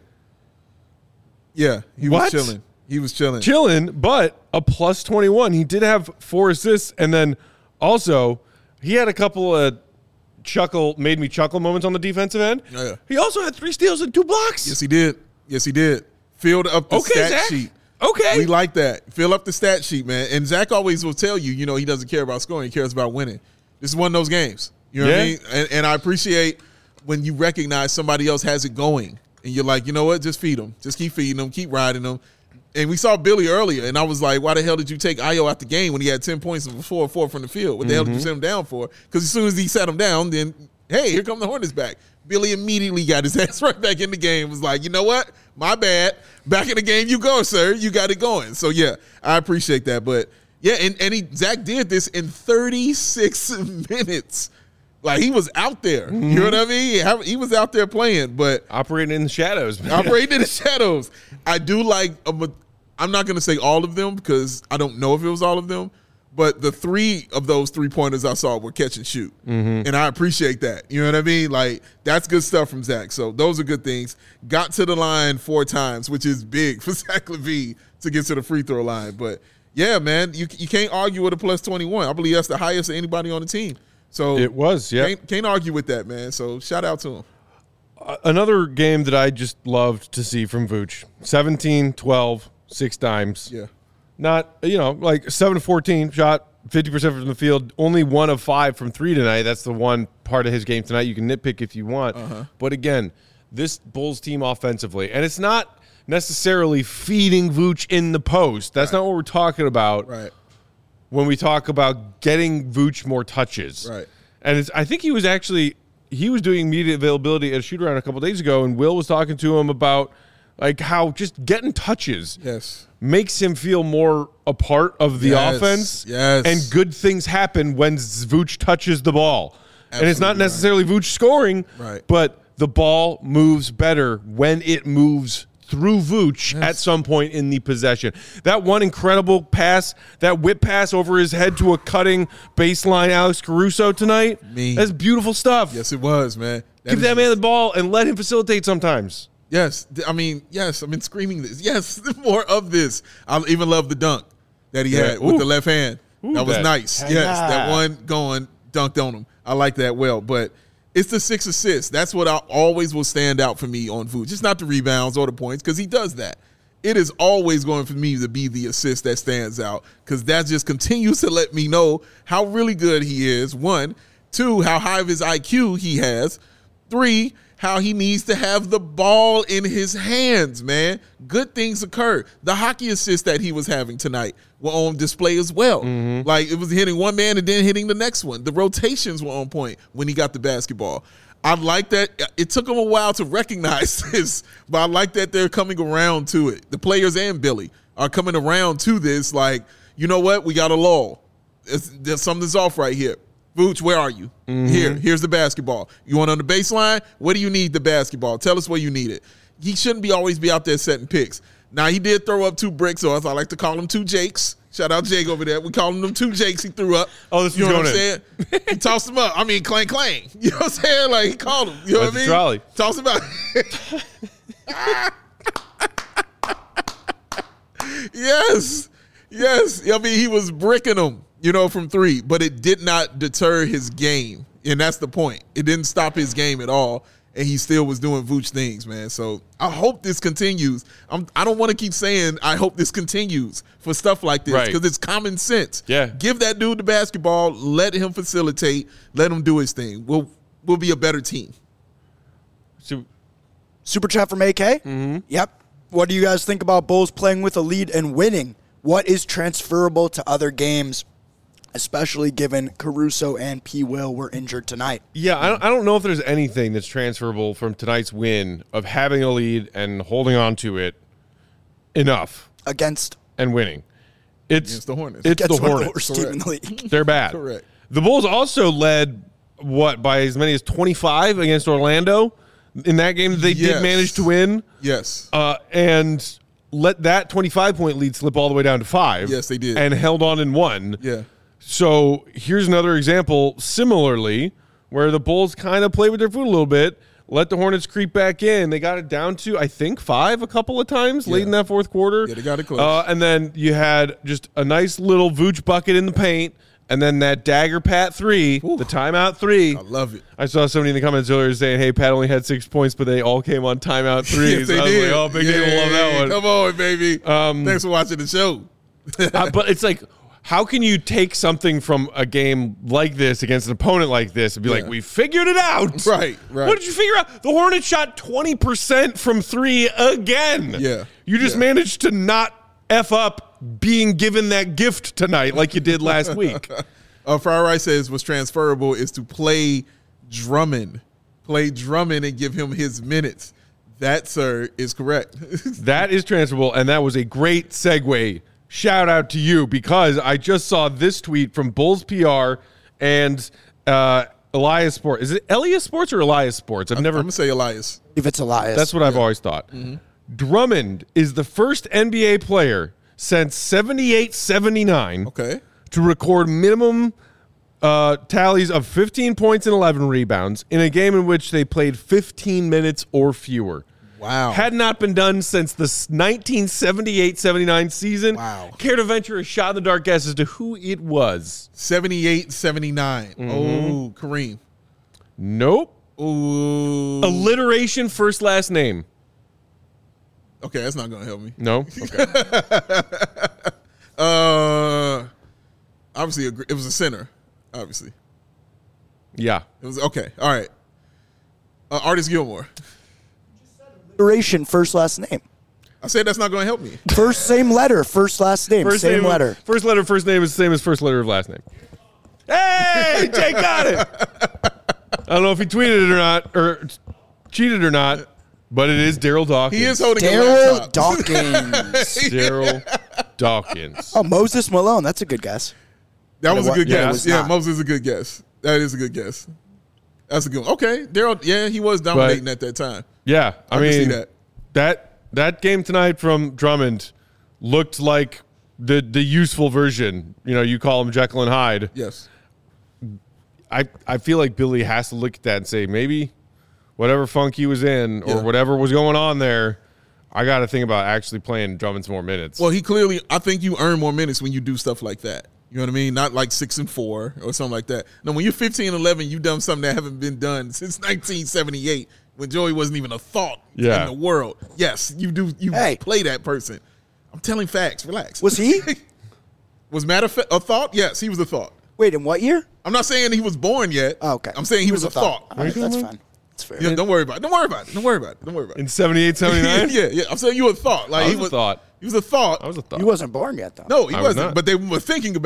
Yeah, he what? was chilling. He was chilling. Chilling, but a plus twenty-one. He did have four assists, and then also he had a couple of chuckle, made me chuckle moments on the defensive end. Oh, yeah. He also had three steals and two blocks. Yes, he did. Yes, he did. Filled up the okay, stat Zach. sheet. Okay. We like that. Fill up the stat sheet, man. And Zach always will tell you, you know, he doesn't care about scoring. He cares about winning. This is one of those games. You know yeah. what I mean? And, and I appreciate when you recognize somebody else has it going. And you're like, you know what? Just feed them. Just keep feeding them. Keep riding them. And we saw Billy earlier, and I was like, why the hell did you take Ayo out the game when he had ten points and four four from the field? What the mm-hmm. hell did you set him down for? Because as soon as he set him down, then, hey, here come the Hornets back. Billy immediately got his ass right back in the game. Was like, you know what? My bad. Back in the game you go, sir. You got it going. So, yeah, I appreciate that. But, yeah, and, and he Zach did this in thirty-six minutes. Like, he was out there. Mm-hmm. You know what I mean? He was out there playing. But operating in the shadows, man. Operating in the shadows. I do like a, I'm not going to say all of them because I don't know if it was all of them. But the three of those three-pointers I saw were catch and shoot. Mm-hmm. And I appreciate that. You know what I mean? Like, that's good stuff from Zach. So those are good things. Got to the line four times, which is big for Zach LaVine to get to the free throw line. But, yeah, man, you you can't argue with a plus twenty-one. I believe that's the highest of anybody on the team. So it was, yeah. Can't, can't argue with that, man. So shout out to him. Uh, another game that I just loved to see from Vooch. seventeen, twelve, six dimes. Yeah. Not, you know, like seven to fourteen, shot fifty percent from the field, only one of five from three tonight. That's the one part of his game tonight. You can nitpick if you want. Uh-huh. But again, this Bulls team offensively, and it's not necessarily feeding Vooch in the post. That's right. not what we're talking about right. when we talk about getting Vooch more touches. Right. And it's, I think he was actually, he was doing immediate availability at a shoot-around a couple days ago, and Will was talking to him about like how just getting touches yes. makes him feel more a part of the yes. offense. Yes. And good things happen when Vooch touches the ball. Absolutely and it's not necessarily right. Vooch scoring, right. but the ball moves better when it moves through Vooch yes. at some point in the possession. That one incredible pass, that whip pass over his head to a cutting baseline Alex Caruso tonight, Me. that's beautiful stuff. Yes, it was, man. That Give that man the ball and let him facilitate sometimes. Yes, I mean, yes, I've been screaming this. Yes, more of this. I even love the dunk that he yeah. had Ooh. with the left hand. Ooh, that was that. nice. Hey, yes, nah. that one going, dunked on him. I like that well. But it's the six assists. That's what I always will stand out for me on Vooch. Just not the rebounds or the points because he does that. It is always going for me to be the assist that stands out because that just continues to let me know how really good he is, one. Two, how high of his I Q he has. Three, how he needs to have the ball in his hands, man. Good things occur. The hockey assist that he was having tonight were on display as well. Mm-hmm. Like, it was hitting one man and then hitting the next one. The rotations were on point when he got the basketball. I like that. It took them a while to recognize this, but I like that they're coming around to it. The players and Billy are coming around to this. Like, you know what? We got a lull. It's, there's something's off right here. Vooch, where are you? Mm-hmm. Here, here's the basketball. You want on the baseline? What do you need the basketball? Tell us where you need it. He shouldn't be always be out there setting picks. Now, he did throw up two bricks, or I like to call them two Jakes. Shout out Jake over there. We call him them two Jakes he threw up. Oh, this you know was what going I'm saying? He tossed them up. I mean, clang, clang. You know what I'm saying? Like, he called them. You know That's what I mean? Trolley. Toss them out. Yes. Yes. I mean, he was bricking them, you know, from three, but it did not deter his game. And that's the point. It didn't stop his game at all. And he still was doing Vooch things, man. So I hope this continues. I'm, I don't want to keep saying I hope this continues for stuff like this because right. it's common sense. Yeah. Give that dude the basketball. Let him facilitate. Let him do his thing. We'll we'll be a better team. So, Super chat from A K? Mm-hmm. Yep. What do you guys think about Bulls playing with a lead and winning? What is transferable to other games, especially given Caruso and P. Will were injured tonight? Yeah, I don't, I don't know if there's anything that's transferable from tonight's win of having a lead and holding on to it enough Against and winning. It's Against the Hornets. It's Against the one of the Hornets. worst team in the league. They're bad. Correct. The Bulls also led, what, by as many as twenty-five against Orlando in that game that they Yes. did manage to win. Yes. Uh, and let that twenty-five point lead slip all the way down to five. Yes, they did. And held on and won. Yeah. So here's another example, similarly, where the Bulls kind of play with their foot a little bit, let the Hornets creep back in. They got it down to, I think, five a couple of times late Yeah. in that fourth quarter. Yeah, they got it close. Uh, and then you had just a nice little Vooch bucket in the paint, and then that dagger Pat three, Ooh. the timeout three. I love it. I saw somebody in the comments earlier saying, hey, Pat only had six points, but they all came on timeout threes. Yes, they I was did. like, oh, Big Dave will love that one. Come on, baby. Um, Thanks for watching the show. uh, but it's like, how can you take something from a game like this against an opponent like this and be Yeah. like, we figured it out? Right, right. What did you figure out? The Hornets shot twenty percent from three again. Yeah, You just yeah. managed to not F up being given that gift tonight like you did last week. Uh, Friar Rice says what's transferable is to play Drummond. Play Drummond and give him his minutes. That, sir, is correct. That is transferable, and that was a great segue. Shout out to you, because I just saw this tweet from Bulls P R and uh, Elias Sports. Is it Elias Sports or Elias Sports? I've never. I'm going to say Elias. If it's Elias. That's what I've always thought. Mm-hmm. Drummond is the first N B A player since seventy-eight seventy-nine Okay. to record minimum uh, tallies of fifteen points and eleven rebounds in a game in which they played fifteen minutes or fewer. Wow. Had not been done since the nineteen seventy-eight seventy-nine season. Wow. Care to venture a shot in the dark guess as to who it was? seventy-eight seventy-nine. Mm-hmm. Oh, Kareem. Nope. Ooh. Alliteration, first, last name. Okay, that's not going to help me. No? Okay. Uh, obviously, a gr- it was a center, obviously. Yeah. It was, okay, all right. Uh, Artist Gilmore. Alliteration, first last name. I said that's not going to help me. First same letter, first last name, First same name, letter. First letter, first name is the same as first letter of last name. Hey, Jake got it. I don't know if he tweeted it or not, or cheated or not, but it is Daryl Dawkins. He is holding a Daryl laptop. Dawkins. Daryl Dawkins. Oh, Moses Malone. That's a good guess. That was a good Yeah, it guess. was Yeah, not. Moses is a good guess. That is a good guess. That's a good one. Okay, Daryl, yeah, he was dominating at that time. Yeah, I, I can mean see that. that that game tonight from Drummond looked like the the useful version. You know, you call him Jekyll and Hyde. Yes. I I feel like Billy has to look at that and say maybe whatever funk he was in or Yeah. whatever was going on there, I got to think about actually playing Drummond some more minutes. Well, he clearly, I think you earn more minutes when you do stuff like that. You know what I mean? Not like six and four or something like that. No, when you're fifteen and eleven, you've done something that haven't been done since nineteen seventy-eight when Joey wasn't even a thought Yeah. in the world. Yes, you do. You Hey. play that person. I'm telling facts. Relax. Was he? Was Matt a, fa- a thought? Yes, he was a thought. Wait, in what year? I'm not saying he was born yet. Oh, okay. I'm saying he, was, a thought. All right, that's fine. That's fair. Yeah, don't worry about it. Don't worry about it. Don't worry about it. Don't worry about it. in seventy-eight, seventy-nine? yeah, yeah. I'm saying you a thought. Like I was he a thought. He was a thought. I was a thought. He wasn't born yet, though. No, he I was wasn't. not. But they were thinking about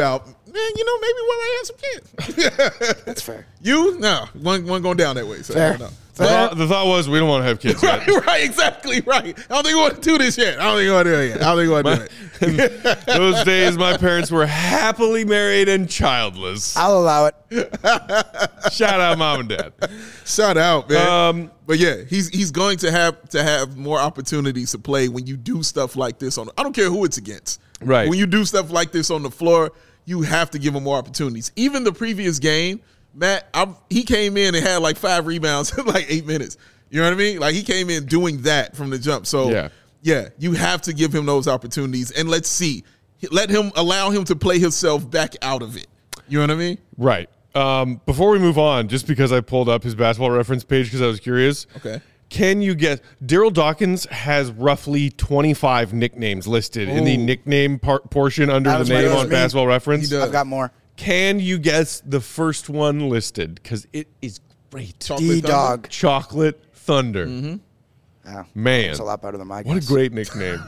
man, you know, maybe we might have some kids. That's fair. You? No. One, one going down that way. So Fair. I don't know. The thought, the thought was we don't want to have kids yet. Right, right, exactly, right. I don't think we want to do this yet. I don't think we want to do it yet. I don't think we want to do it. Those days, my parents were happily married and childless. I'll allow it. Shout out, mom and dad. Shout out, man. Um, but yeah, he's he's going to have to have more opportunities to play when you do stuff like this on. I don't care who it's against. Right. When you do stuff like this on the floor, you have to give him more opportunities. Even the previous game, Matt, I, he came in and had like five rebounds in like eight minutes. You know what I mean? Like he came in doing that from the jump. So Yeah. yeah, you have to give him those opportunities, and let's see, let him allow him to play himself back out of it. You know what I mean? Right. Um, before we move on, just because I pulled up his basketball reference page because I was curious. Okay. Can you guess? Daryl Dawkins has roughly twenty-five nicknames listed in the nickname par- portion under That the was my- name that was on me. basketball reference. He does. I've got more. Can you guess the first one listed? Because it is great. Chocolate D Thunder? Dog. Chocolate Thunder. Oh, Man. it's a lot better than my What a guess. great nickname.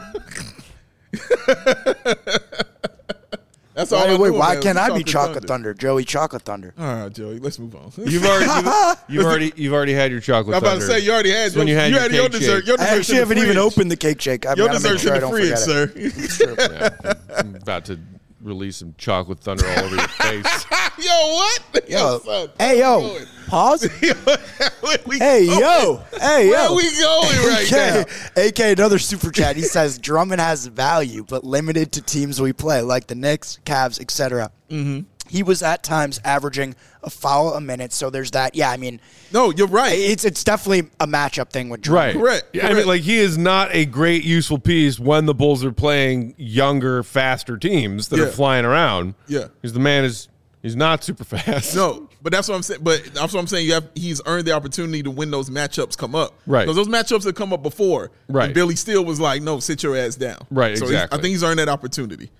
That's all. Wait, I wait, knew why about can't was I be Chocolate Thunder? Joey Chocolate Thunder. All right, Joey, let's move on. You've already, you've, you've already, you've already had your chocolate I'm about thunder. to say you already had It's when your, you had you your had your cake dessert. shake. Your I dessert's actually in the haven't even fridge. opened the cake shake. I've Your got to make dessert's sure I in the don't fridge, forget it. sir. Yeah, I'm about to release some chocolate thunder all over your face. Yo, what? Yo, son. hey, yo, Where pause. Where we Hey, going? yo, hey, Where yo. we going right now? A K, another super chat. He says Drummond has value, but limited to teams we play, like the Knicks, Cavs, et cetera. Mm-hmm. He was at times averaging a foul a minute, so there's that. Yeah, I mean, No, you're right. it's it's definitely a matchup thing with Right. Drummond. Correct, Yeah, I mean, correct. like, he is not a great, useful piece when the Bulls are playing younger, faster teams that Yeah. are flying around. Yeah. Because the man is, he's not super fast. No, but that's what I'm saying. But that's what I'm saying. You have he's earned the opportunity to when those matchups come up. Right. Because those matchups have come up before. Right. And Billy Steele was like, "No, sit your ass down." Right, So he's- exactly. I think he's earned that opportunity.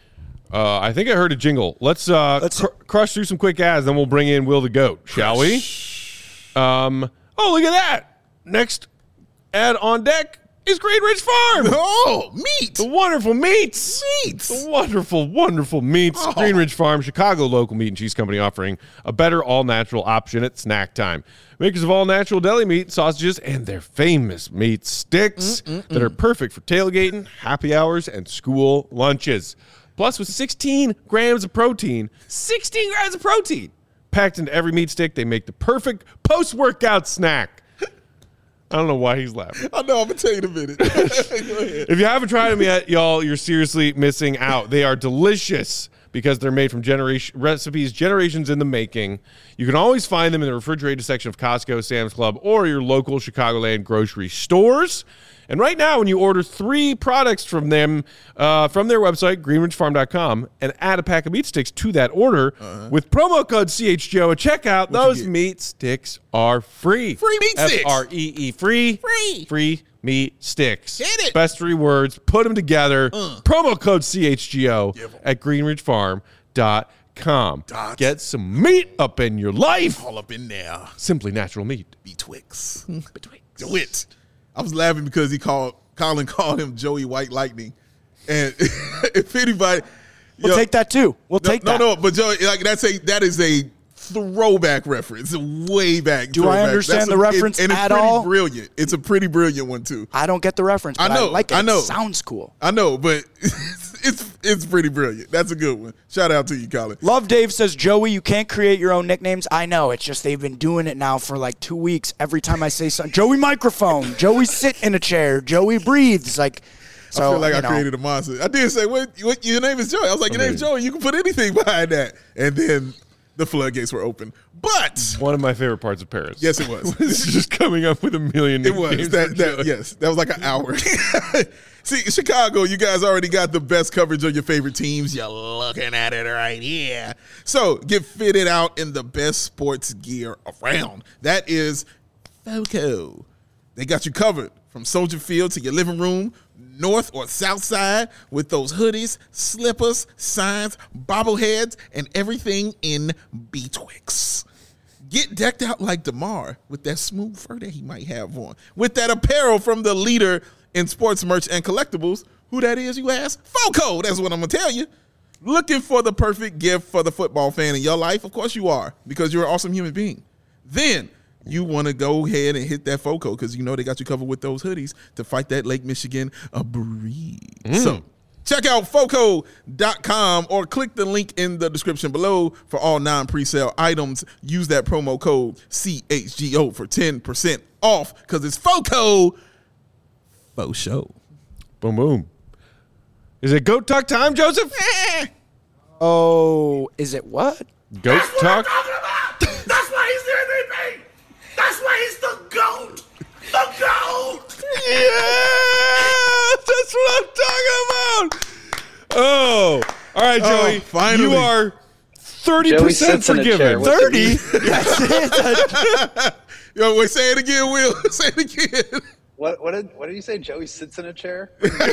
Uh, I think I heard a jingle. Let's, uh, Let's- cr- crush through some quick ads, then we'll bring in Will the Goat, shall we? Um, oh, look at that. Next ad on deck is Green Ridge Farm. Oh, meat. The wonderful meats. Meats. The wonderful, wonderful meats. Oh. Green Ridge Farm, Chicago local meat and cheese company offering a better all-natural option at snack time. Makers of all-natural deli meat, sausages, and their famous meat sticks that are perfect for tailgating, happy hours, and school lunches. Plus, with sixteen grams of protein, sixteen grams of protein packed into every meat stick, they make the perfect post-workout snack. I don't know why he's laughing. I know. I'm gonna tell you in a minute. Go ahead. If you haven't tried them yet, y'all, you're seriously missing out. They are delicious because they're made from generation recipes generations in the making. You can always find them in the refrigerated section of Costco, Sam's Club, or your local Chicagoland grocery stores. And right now, when you order three products from them, uh, from their website, green ridge farm dot com, and add a pack of meat sticks to that order, Uh-huh. with promo code C H G O at checkout, those get? meat sticks are free. Free meat sticks. F R E E, free. Free. Free meat sticks. Get it. Best three words, put them together. Promo code C H G O Give 'em. at green ridge farm dot com. Dot. Get some meat up in your life. All up in there. Simply natural meat. Betwixt. Do it. I was laughing because he called Colin called him Joey White Lightning, and if anybody, We'll yo, take that too. We'll no, take no, that. no, but Joey, like that's a that is a throwback reference, way back. Do I throwback. understand That's the a- reference it, and it's at pretty all? Brilliant. It's a pretty brilliant one too. I don't get the reference, but I I, know, like it. I know. It sounds cool. I know, but it's it's pretty brilliant. That's a good one. Shout out to you, Colin. Love Dave says, Joey, you can't create your own nicknames. I know. It's just they've been doing it now for like two weeks. Every time I say something, Joey microphone, Joey sit in a chair, Joey breathes. Like, so, I feel like you I know, created a monster. I did say, "What? What? Your name is Joey." I was like, "Your name's Joey. You can put anything behind that." And then the floodgates were open. But One of my favorite parts of Paris. yes, it was. It's just coming up with a million It nicknames was for that, that Joey. yes, that was like an hour. See, Chicago, you guys already got the best coverage of your favorite teams. You're looking at it right here. So get fitted out in the best sports gear around. That is Foco. They got you covered from Soldier Field to your living room, north or south side, with those hoodies, slippers, signs, bobbleheads, and everything in betwixt. Get decked out like DeMar with that smooth fur that he might have on. With that apparel from the leader in sports merch and collectibles. Who that is, you ask? Foco. That's what I'm going to tell you. Looking for the perfect gift for the football fan in your life? Of course you are, because you're an awesome human being. Then you want to go ahead and hit that FOCO because you know they got you covered with those hoodies to fight that Lake Michigan a breeze. Mm. So check out foco dot com or click the link in the description below for all non-presale items. Use that promo code C H G O for ten percent off because it's FOCO. Faux show. Boom, boom. Is it goat talk time, Joseph? Oh, is it what? Goat That's talk? What I'm talking about. That's why he's the M V P. That's why he's the GOAT. The GOAT. Yeah! That's what I'm talking about. Oh. All right, Joey. Oh, finally. You are thirty percent forgiven. thirty? Yo, wait, say it again, Will. Say it again. What what did what did you say? Joey sits in a chair.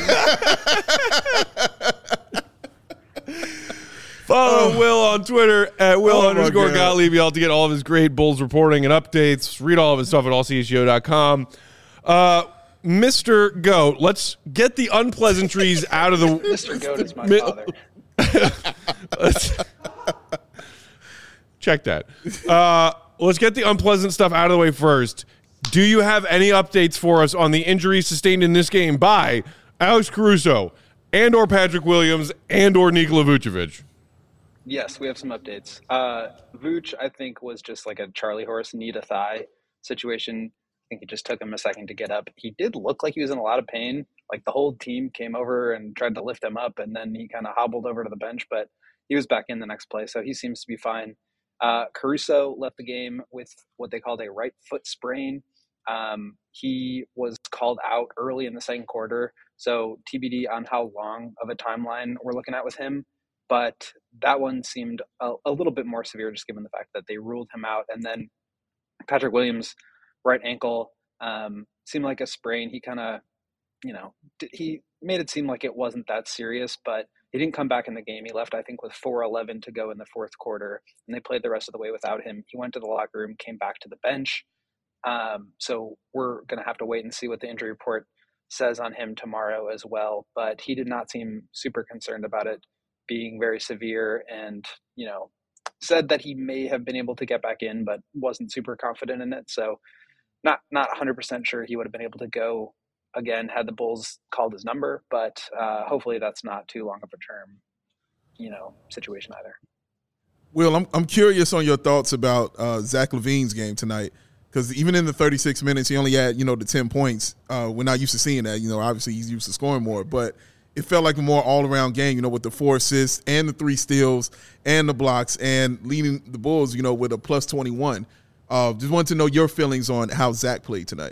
Follow Oh. Will on Twitter at Will Oh, my underscore God. Gottlieb. Y'all to get all of his great Bulls reporting and updates. Read all of his stuff at all c h g o dot com. Uh, Mister Goat, let's get the unpleasantries out of the. Mister Goat is my Mi- father. Let's check that. Uh, let's get the unpleasant stuff out of the way first. Do you have any updates for us on the injuries sustained in this game by Alex Caruso and or Patrick Williams and or Nikola Vucevic? Yes, we have some updates. Uh, Vooch, I think, was just like a Charlie horse knee to thigh situation. I think it just took him a second to get up. He did look like he was in a lot of pain. Like the whole team came over and tried to lift him up, and then he kind of hobbled over to the bench, but he was back in the next play, so he seems to be fine. Uh, Caruso left the game with what they called a right foot sprain. Um, he was called out early in the second quarter, so T B D on how long of a timeline we're looking at with him. But that one seemed a, a little bit more severe, just given the fact that they ruled him out. And then Patrick Williams, right ankle, um, seemed like a sprain. He kind of, you know, he made it seem like it wasn't that serious, but he didn't come back in the game. He left, I think, with four eleven to go in the fourth quarter, and they played the rest of the way without him. He went to the locker room, came back to the bench. Um, so we're going to have to wait and see what the injury report says on him tomorrow as well. But he did not seem super concerned about it being very severe, and, you know, said that he may have been able to get back in, but wasn't super confident in it. So not, not one hundred percent sure he would have been able to go again had the Bulls called his number, but uh, hopefully that's not too long of a term, you know, situation either. Will, I'm I'm curious on your thoughts about uh, Zach LaVine's game tonight, because even in the thirty-six minutes, he only had, you know, the ten points. Uh, we're not used to seeing that. You know, obviously he's used to scoring more, but it felt like a more all-around game, you know, with the four assists and the three steals and the blocks and leading the Bulls, you know, with a plus twenty-one. Uh, just wanted to know your feelings on how Zach played tonight.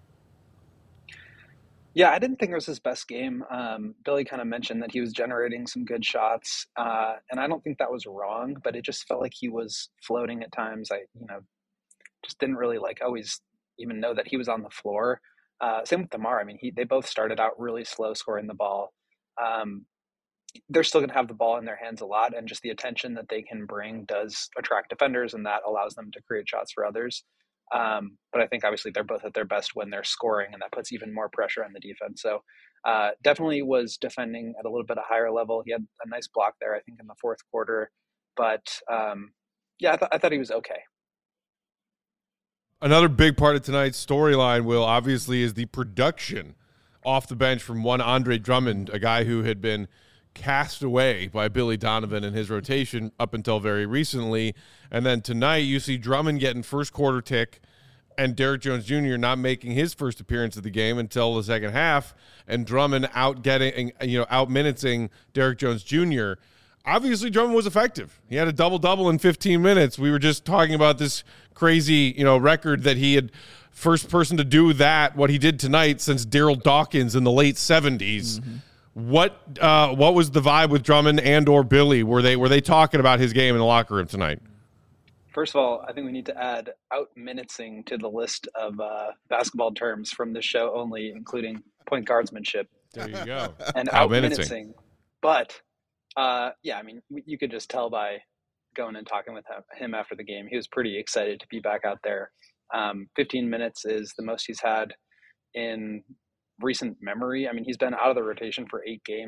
Yeah, I didn't think it was his best game. Um, Billy kind of mentioned that he was generating some good shots, uh, and I don't think that was wrong, but it just felt like he was floating at times. I, you know, just didn't really like always even know that he was on the floor. Uh, same with DeMar. I mean, he, they both started out really slow scoring the ball. Um, they're still going to have the ball in their hands a lot, and just the attention that they can bring does attract defenders, and that allows them to create shots for others. Um, but I think obviously they're both at their best when they're scoring, and that puts even more pressure on the defense. So uh, definitely was defending at a little bit of higher level. He had a nice block there, I think, in the fourth quarter. But um, yeah, I, th- I thought he was okay. Another big part of tonight's storyline, Will, obviously, is the production off the bench from one Andre Drummond, a guy who had been cast away by Billy Donovan in his rotation up until very recently. And then tonight you see Drummond getting first quarter tick and Derrick Jones Junior not making his first appearance of the game until the second half, and Drummond out getting, you know, out minuting Derrick Jones Junior Obviously, Drummond was effective. He had a double-double in fifteen minutes. We were just talking about this crazy, you know, record that he had first person to do that, what he did tonight, since Daryl Dawkins in the late seventies. Mm-hmm. What uh, what was the vibe with Drummond and or Billy? Were they were they talking about his game in the locker room tonight? First of all, I think we need to add out-minuting to the list of uh, basketball terms from this show only, including point guardsmanship. There you go. And out-minuting. But, uh, yeah, I mean, you could just tell by going and talking with him after the game. He was pretty excited to be back out there. Um, fifteen minutes is the most he's had in recent memory. I mean, he's been out of the rotation for eight games,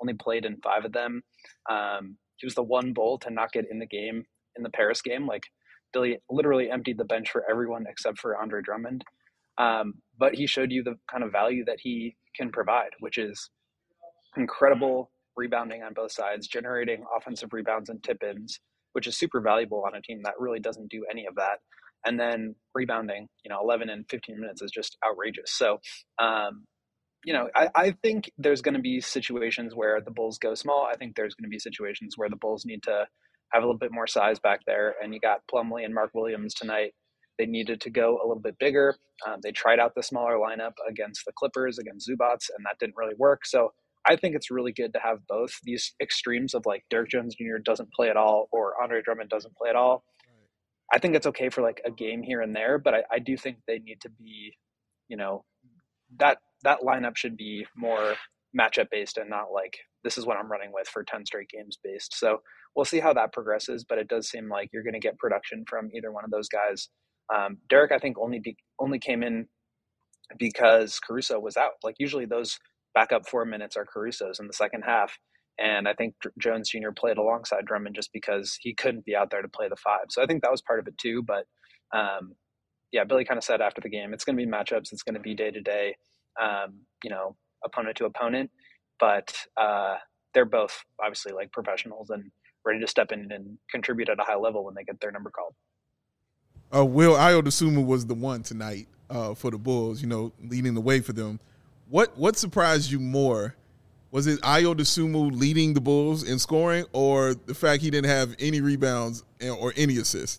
only played in five of them. Um, he was the one Bull to not get in the game in the Paris game. Like Billy literally emptied the bench for everyone except for Andre Drummond. Um, but he showed you the kind of value that he can provide, which is incredible rebounding on both sides, generating offensive rebounds and tip-ins, which is super valuable on a team that really doesn't do any of that. And then rebounding, you know, eleven and fifteen minutes is just outrageous. So, um, you know, I, I think there's going to be situations where the Bulls go small. I think there's going to be situations where the Bulls need to have a little bit more size back there. And you got Plumlee and Mark Williams tonight. They needed to go a little bit bigger. Um, they tried out the smaller lineup against the Clippers, against Zubats, and that didn't really work. So I think it's really good to have both these extremes of like Derrick Jones Junior doesn't play at all or Andre Drummond doesn't play at all. I think it's okay for like a game here and there, but I, I do think they need to be, you know, that that lineup should be more matchup based and not like this is what I'm running with for ten straight games based. So we'll see how that progresses, but it does seem like you're going to get production from either one of those guys. Um, Derrick, I think only be, only came in because Caruso was out. Like usually those backup four minutes are Caruso's in the second half. And I think Jones Junior played alongside Drummond just because he couldn't be out there to play the five. So I think that was part of it too. But um, yeah, Billy kind of said after the game, it's going to be matchups. It's going to be day to day, um, you know, opponent to opponent. But uh, they're both obviously like professionals and ready to step in and contribute at a high level when they get their number called. Uh, Will, Ayo Dosunmu was the one tonight uh, for the Bulls, you know, leading the way for them. What what surprised you more? Was it Ayo Dosunmu leading the Bulls in scoring or the fact he didn't have any rebounds or any assists?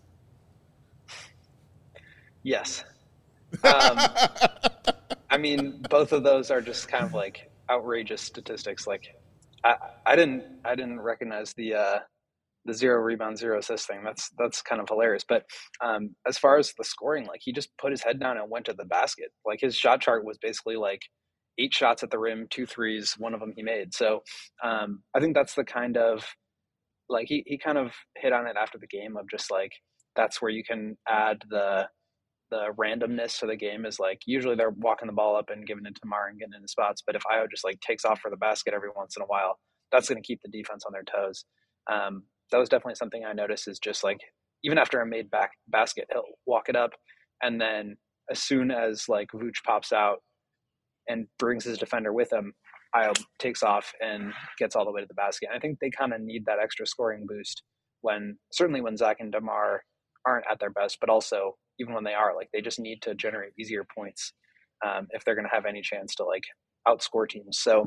Yes. Um, I mean, both of those are just kind of like outrageous statistics. Like I, I didn't I didn't recognize the uh, the zero rebound, zero assist thing. That's that's kind of hilarious. But um, as far as the scoring, like he just put his head down and went to the basket. Like his shot chart was basically like eight shots at the rim, two threes, one of them he made. So um, I think that's the kind of like he, he kind of hit on it after the game of just like that's where you can add the the randomness to the game is like usually they're walking the ball up and giving it to Mar and getting into spots. But if Ayo just like takes off for the basket every once in a while, that's going to keep the defense on their toes. Um, that was definitely something I noticed is just like even after a made back basket, he'll walk it up. And then as soon as like Vooch pops out, and brings his defender with him, Ayo takes off and gets all the way to the basket. And I think they kind of need that extra scoring boost when, certainly when Zach and DeMar aren't at their best, but also even when they are, like they just need to generate easier points um, if they're going to have any chance to like outscore teams. So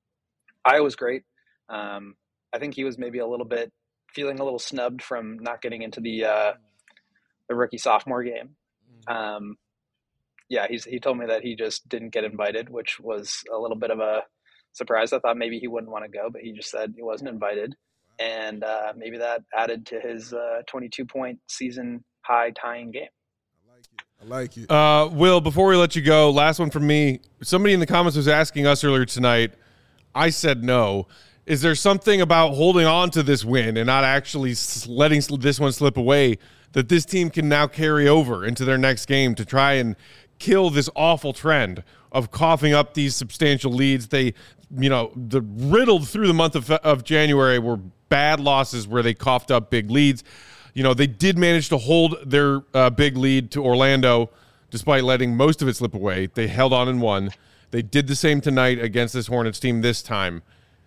Ayo was great. Um, I think he was maybe a little bit feeling a little snubbed from not getting into the uh, the rookie sophomore game. Um, Yeah, he's he told me that he just didn't get invited, which was a little bit of a surprise. I thought maybe he wouldn't want to go, but he just said he wasn't invited. And uh, maybe that added to his uh, twenty-two point season high tying game. I like it. I like it. Uh, Will, before we let you go, last one from me. Somebody in the comments was asking us earlier tonight. I said no. Is there something about holding on to this win and not actually letting this one slip away that this team can now carry over into their next game to try and kill this awful trend of coughing up these substantial leads? They, you know, the riddled through the month of, of January were bad losses where they coughed up big leads. You know, they did manage to hold their uh, big lead to Orlando despite letting most of it slip away. They held on and won. They did the same tonight against this Hornets team this time.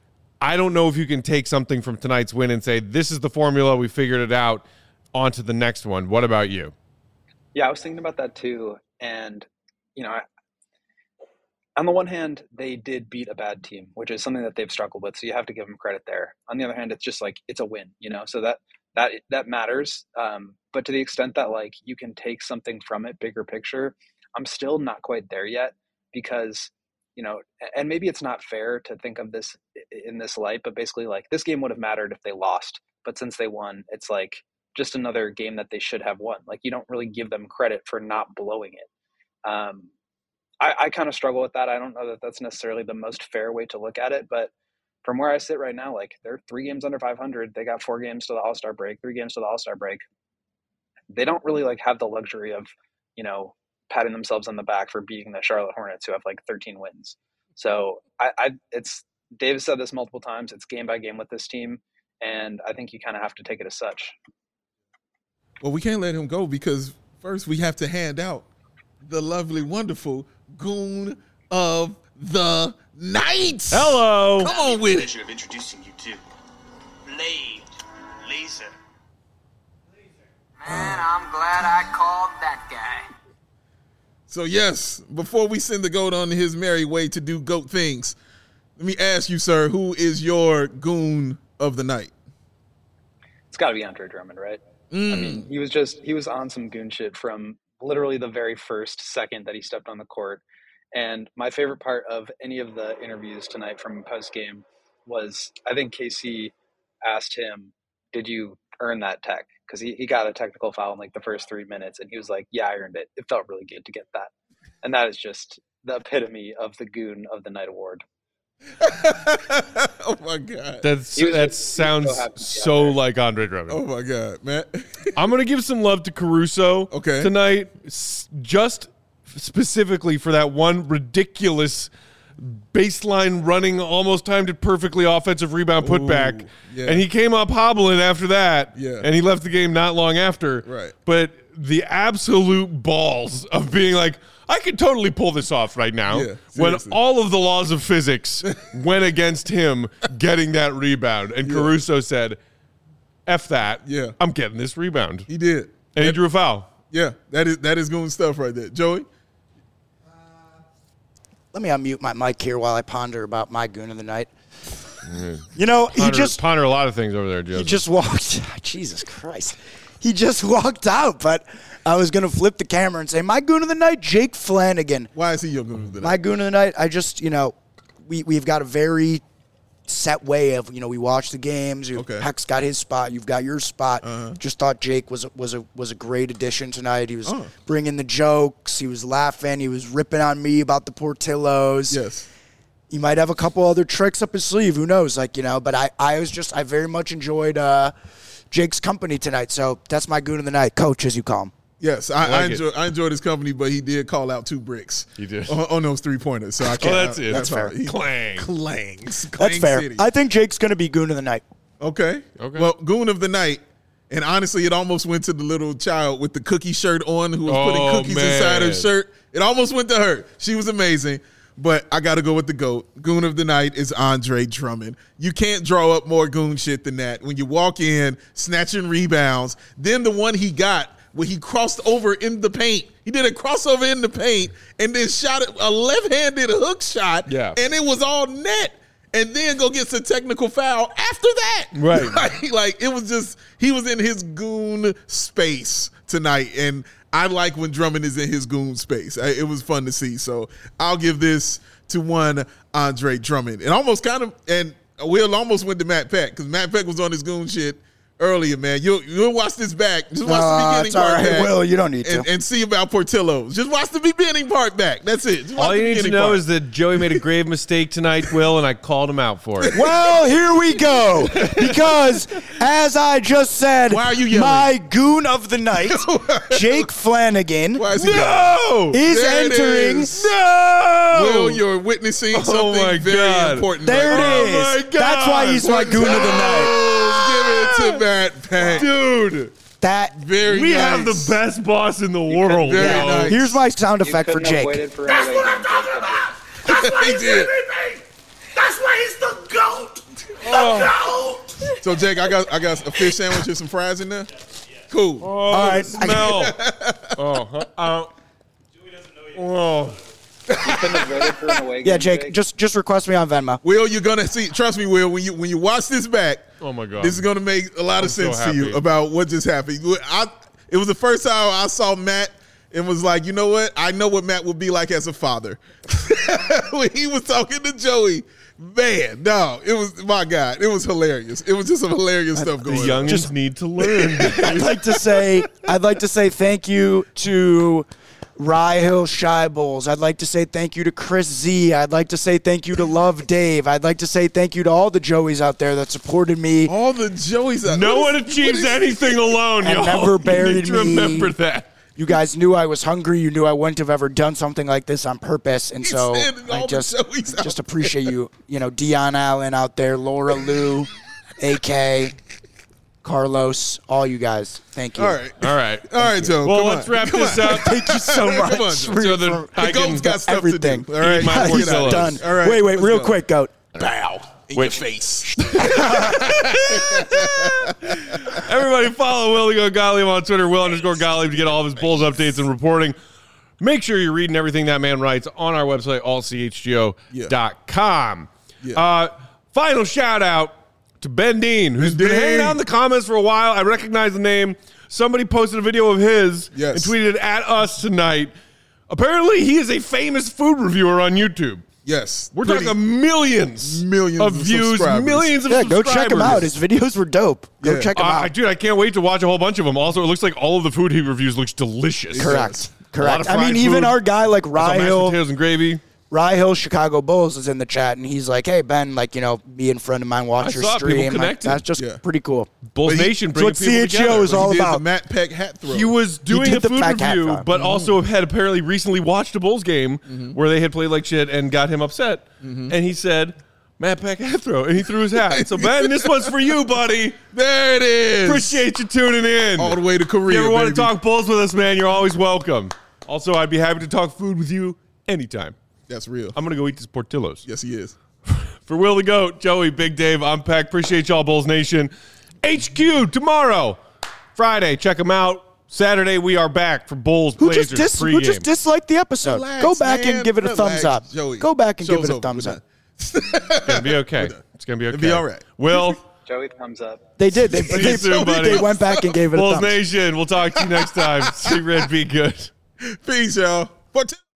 I don't know if you can take something from tonight's win and say, this is the formula, we figured it out, on to the next one. What about you? Yeah, I was thinking about that too. And, you know, I, on the one hand, they did beat a bad team, which is something that they've struggled with. So you have to give them credit there. On the other hand, it's just like, it's a win, you know, so that, that, that matters. Um, but to the extent that like you can take something from it, bigger picture, I'm still not quite there yet because, you know, and maybe it's not fair to think of this in this light, but basically like this game would have mattered if they lost, but since they won, it's like just another game that they should have won. Like you don't really give them credit for not blowing it. Um, I, I kind of struggle with that. I don't know that that's necessarily the most fair way to look at it, but from where I sit right now, like they're three games under five hundred. They got four games to the All-Star break, three games to the All-Star break. They don't really like have the luxury of, you know, patting themselves on the back for beating the Charlotte Hornets who have like thirteen wins. So I, I it's Dave said this multiple times. It's game by game with this team, and I think you kind of have to take it as such. Well, we can't let him go because first we have to hand out the lovely, wonderful Goon of the Night. Hello. Come on with it. Pleasure of introducing you to Blade Laser. Man, I'm glad I called that guy. So, yes, before we send the GOAT on his merry way to do GOAT things, let me ask you, sir, who is your Goon of the Night? It's got to be Andre Drummond, right? Mm. I mean, he was just he was on some goon shit from literally the very first second that he stepped on the court. And my favorite part of any of the interviews tonight from post game was I think K C asked him, "Did you earn that tech?" Because he, he got a technical foul in like the first three minutes, and he was like, "Yeah, I earned it. It felt really good to get that." And that is just the epitome of the Goon of the Night award. Oh my god, that's that just, sounds so, so like Andre Drummond. Oh my god, man. I'm gonna give some love to Caruso okay. tonight, just specifically for that one ridiculous baseline running, almost timed it perfectly offensive rebound putback, yeah. and he came up hobbling after that, yeah. and he left the game not long after. Right, but the absolute balls of being like, I could totally pull this off right now yeah, when all of the laws of physics went against him getting that rebound. And yeah. Caruso said, F that. Yeah. I'm getting this rebound. He did. And that, he drew a foul. Yeah, that is that is Goon stuff right there. Joey? Uh, let me unmute my mic here while I ponder about my Goon of the Night. Mm-hmm. You know, ponder, he just... Ponder a lot of things over there, Joe. He just walked... Jesus Christ. He just walked out, but... I was going to flip the camera and say, my Goon of the Night, Jake Flanagan. Why is he your Goon of the Night? My Goon of the Night, I just, you know, we, we've got a very set way of, you know, we watch the games. Okay. Heck's got his spot. You've got your spot. Uh-huh. Just thought Jake was, was, a, was a great addition tonight. He was uh-huh. bringing the jokes. He was laughing. He was ripping on me about the Portillos. Yes. He might have a couple other tricks up his sleeve. Who knows? Like, you know, but I, I was just, I very much enjoyed uh, Jake's company tonight. So that's my Goon of the Night. Coach, as you call him. Yes, I, I, like I enjoy I enjoyed his company, but he did call out two bricks. He did on, on those three pointers. So I can't. Oh, that's it. That's fair. He, Clang, clangs. That's Clang fair. City. I think Jake's going to be Goon of the Night. Okay. Okay. Well, Goon of the Night, and honestly, it almost went to the little child with the cookie shirt on who was oh, putting cookies man. inside her shirt. It almost went to her. She was amazing. But I got to go with the GOAT. Goon of the Night is Andre Drummond. You can't draw up more goon shit than that. When you walk in, snatching rebounds, then the one he got where he crossed over in the paint. He did a crossover in the paint and then shot a left-handed hook shot, yeah. and it was all net. And then go get some technical foul after that. Right. like, like, it was just, he was in his goon space tonight. And I like when Drummond is in his goon space. I, it was fun to see. So I'll give this to one Andre Drummond. And almost kind of, and Will almost went to Matt Peck because Matt Peck was on his goon shit earlier, man. You'll, you'll watch this back. Just watch uh, the beginning it's part all right, back. Will, you don't need to. And, and see about Portillo's. Just watch the beginning part back. That's it. Just watch All the you need to beginning know part. is that Joey made a grave mistake tonight, Will, and I called him out for it. Well, here we go. Because, as I just said, Why are you yelling? my Goon of the Night, Jake Flanagan, Why is he No! is There it entering. is. No! Will, you're witnessing something Oh my very God. important. There right it now. is. my God. That's why he's my Goon of the Night. Oh, give it to Matt Peck. Dude, That Very we nice. have the best boss in the world. Very yeah. nice. Here's my sound You effect for couldn't have Jake. waited for That's another what I'm game, talking Jake. about. That's why He he's did. the M V P. That's why he's the GOAT. The GOAT. So, Jake, I got I got a fish sandwich and some fries in there. Cool. Oh, All right. smell. oh, huh, uh, oh. You couldn't have waited for an away game, Yeah, Jake, just just request me on Venmo. Will, you're gonna see. Trust me, Will. When you when you watch this back, Oh, my God. this is gonna make a lot I'm of so sense to you happy. about what just happened. I, it was the first time I saw Matt and was like, you know what? I know what Matt would be like as a father. When he was talking to Joey, man, no, it was my God, it was hilarious. It was just some hilarious stuff The going on. youngins Just- need to learn. I'd like to say I'd like to say thank you to Rye Hill Shy Bulls. I'd like to say thank you to Chris Z. I'd like to say thank you to Love Dave. I'd like to say thank you to all the Joeys out there that supported me. All the Joeys. Out, no what one is- achieves what is- anything alone, And y'all. never You buried need to me. remember that. You guys knew I was hungry. You knew I wouldn't have ever done something like this on purpose. And so I just just appreciate you. You know, Dion Allen out there, Laura Lou, A K, Carlos, all you guys. Thank you. All right. All right. All right, Joe. Well, come let's on. wrap Come this on. up. Thank you so much. Come on, Joe. So that The I can GOAT's got stuff everything. to do. All right. Eat my Let's get out. portillos. Done. All right. Wait, wait, let's real go. quick, Goat. Bow. In Wait. your face. Everybody follow Will Go Gottlieb on Twitter, Will underscore Gottlieb, to get all of his Bulls updates and reporting. Make sure you're reading everything that man writes on our website, all c h g o dot com. Yeah. Uh, final shout out to Ben Dean, who's Ben been hanging Dean. out in the comments for a while. I recognize the name. Somebody posted a video of his Yes. and tweeted it at us tonight. Apparently, he is a famous food reviewer on YouTube. Yes. We're Pretty- talking millions, Millions of of views, subscribers. millions of Yeah, go subscribers. check him out. His videos were dope. Go Yeah. check him Uh, out. dude, I can't wait to watch a whole bunch of them. Also, it looks like all of the food he reviews looks delicious. Correct. A lot of Correct. I mean, fried even food. our guy like I saw mashed Rahil, potatoes and gravy. Rahil Chicago Bulls is in the chat, and he's like, "Hey Ben, like you know, me and friend of mine watch I your saw people stream. Like, connected. that's just Yeah. pretty cool." Bulls But he- Nation it's bringing what people C H G O together. is all He did about. the Matt Peck hat throw. He was doing did a the food fat cat review, throw. but also had apparently recently watched a Bulls game where they had played like shit and got him upset. And he said, Matt Peck hat throw, and he threw his hat. So, Ben, this one's for you, buddy. There it is. Appreciate you tuning in. All the way to Korea. If you ever want to baby. talk Bulls with us, man, you're always welcome. Also, I'd be happy to talk food with you anytime. That's real. I'm going to go eat this Portillo's. Yes, he is. For Will the Goat, Joey, Big Dave, I'm Peck. Appreciate y'all, Bulls Nation. H Q tomorrow, Friday. Check them out. Saturday, we are back for Bulls Who Blazers just dis- pregame. who just disliked the episode? Relax, Go back man. and give it a Relax, thumbs up. Joey. Go back and Show's give it a over. thumbs We're up. It's going to be okay. It's going to be okay. It'll be all right. Will, Joey, thumbs up. They did. They, See you they, soon, buddy. they went back and gave it a Bulls thumbs up. Nation, we'll talk to you next time. See Red, be good. Peace, y'all. But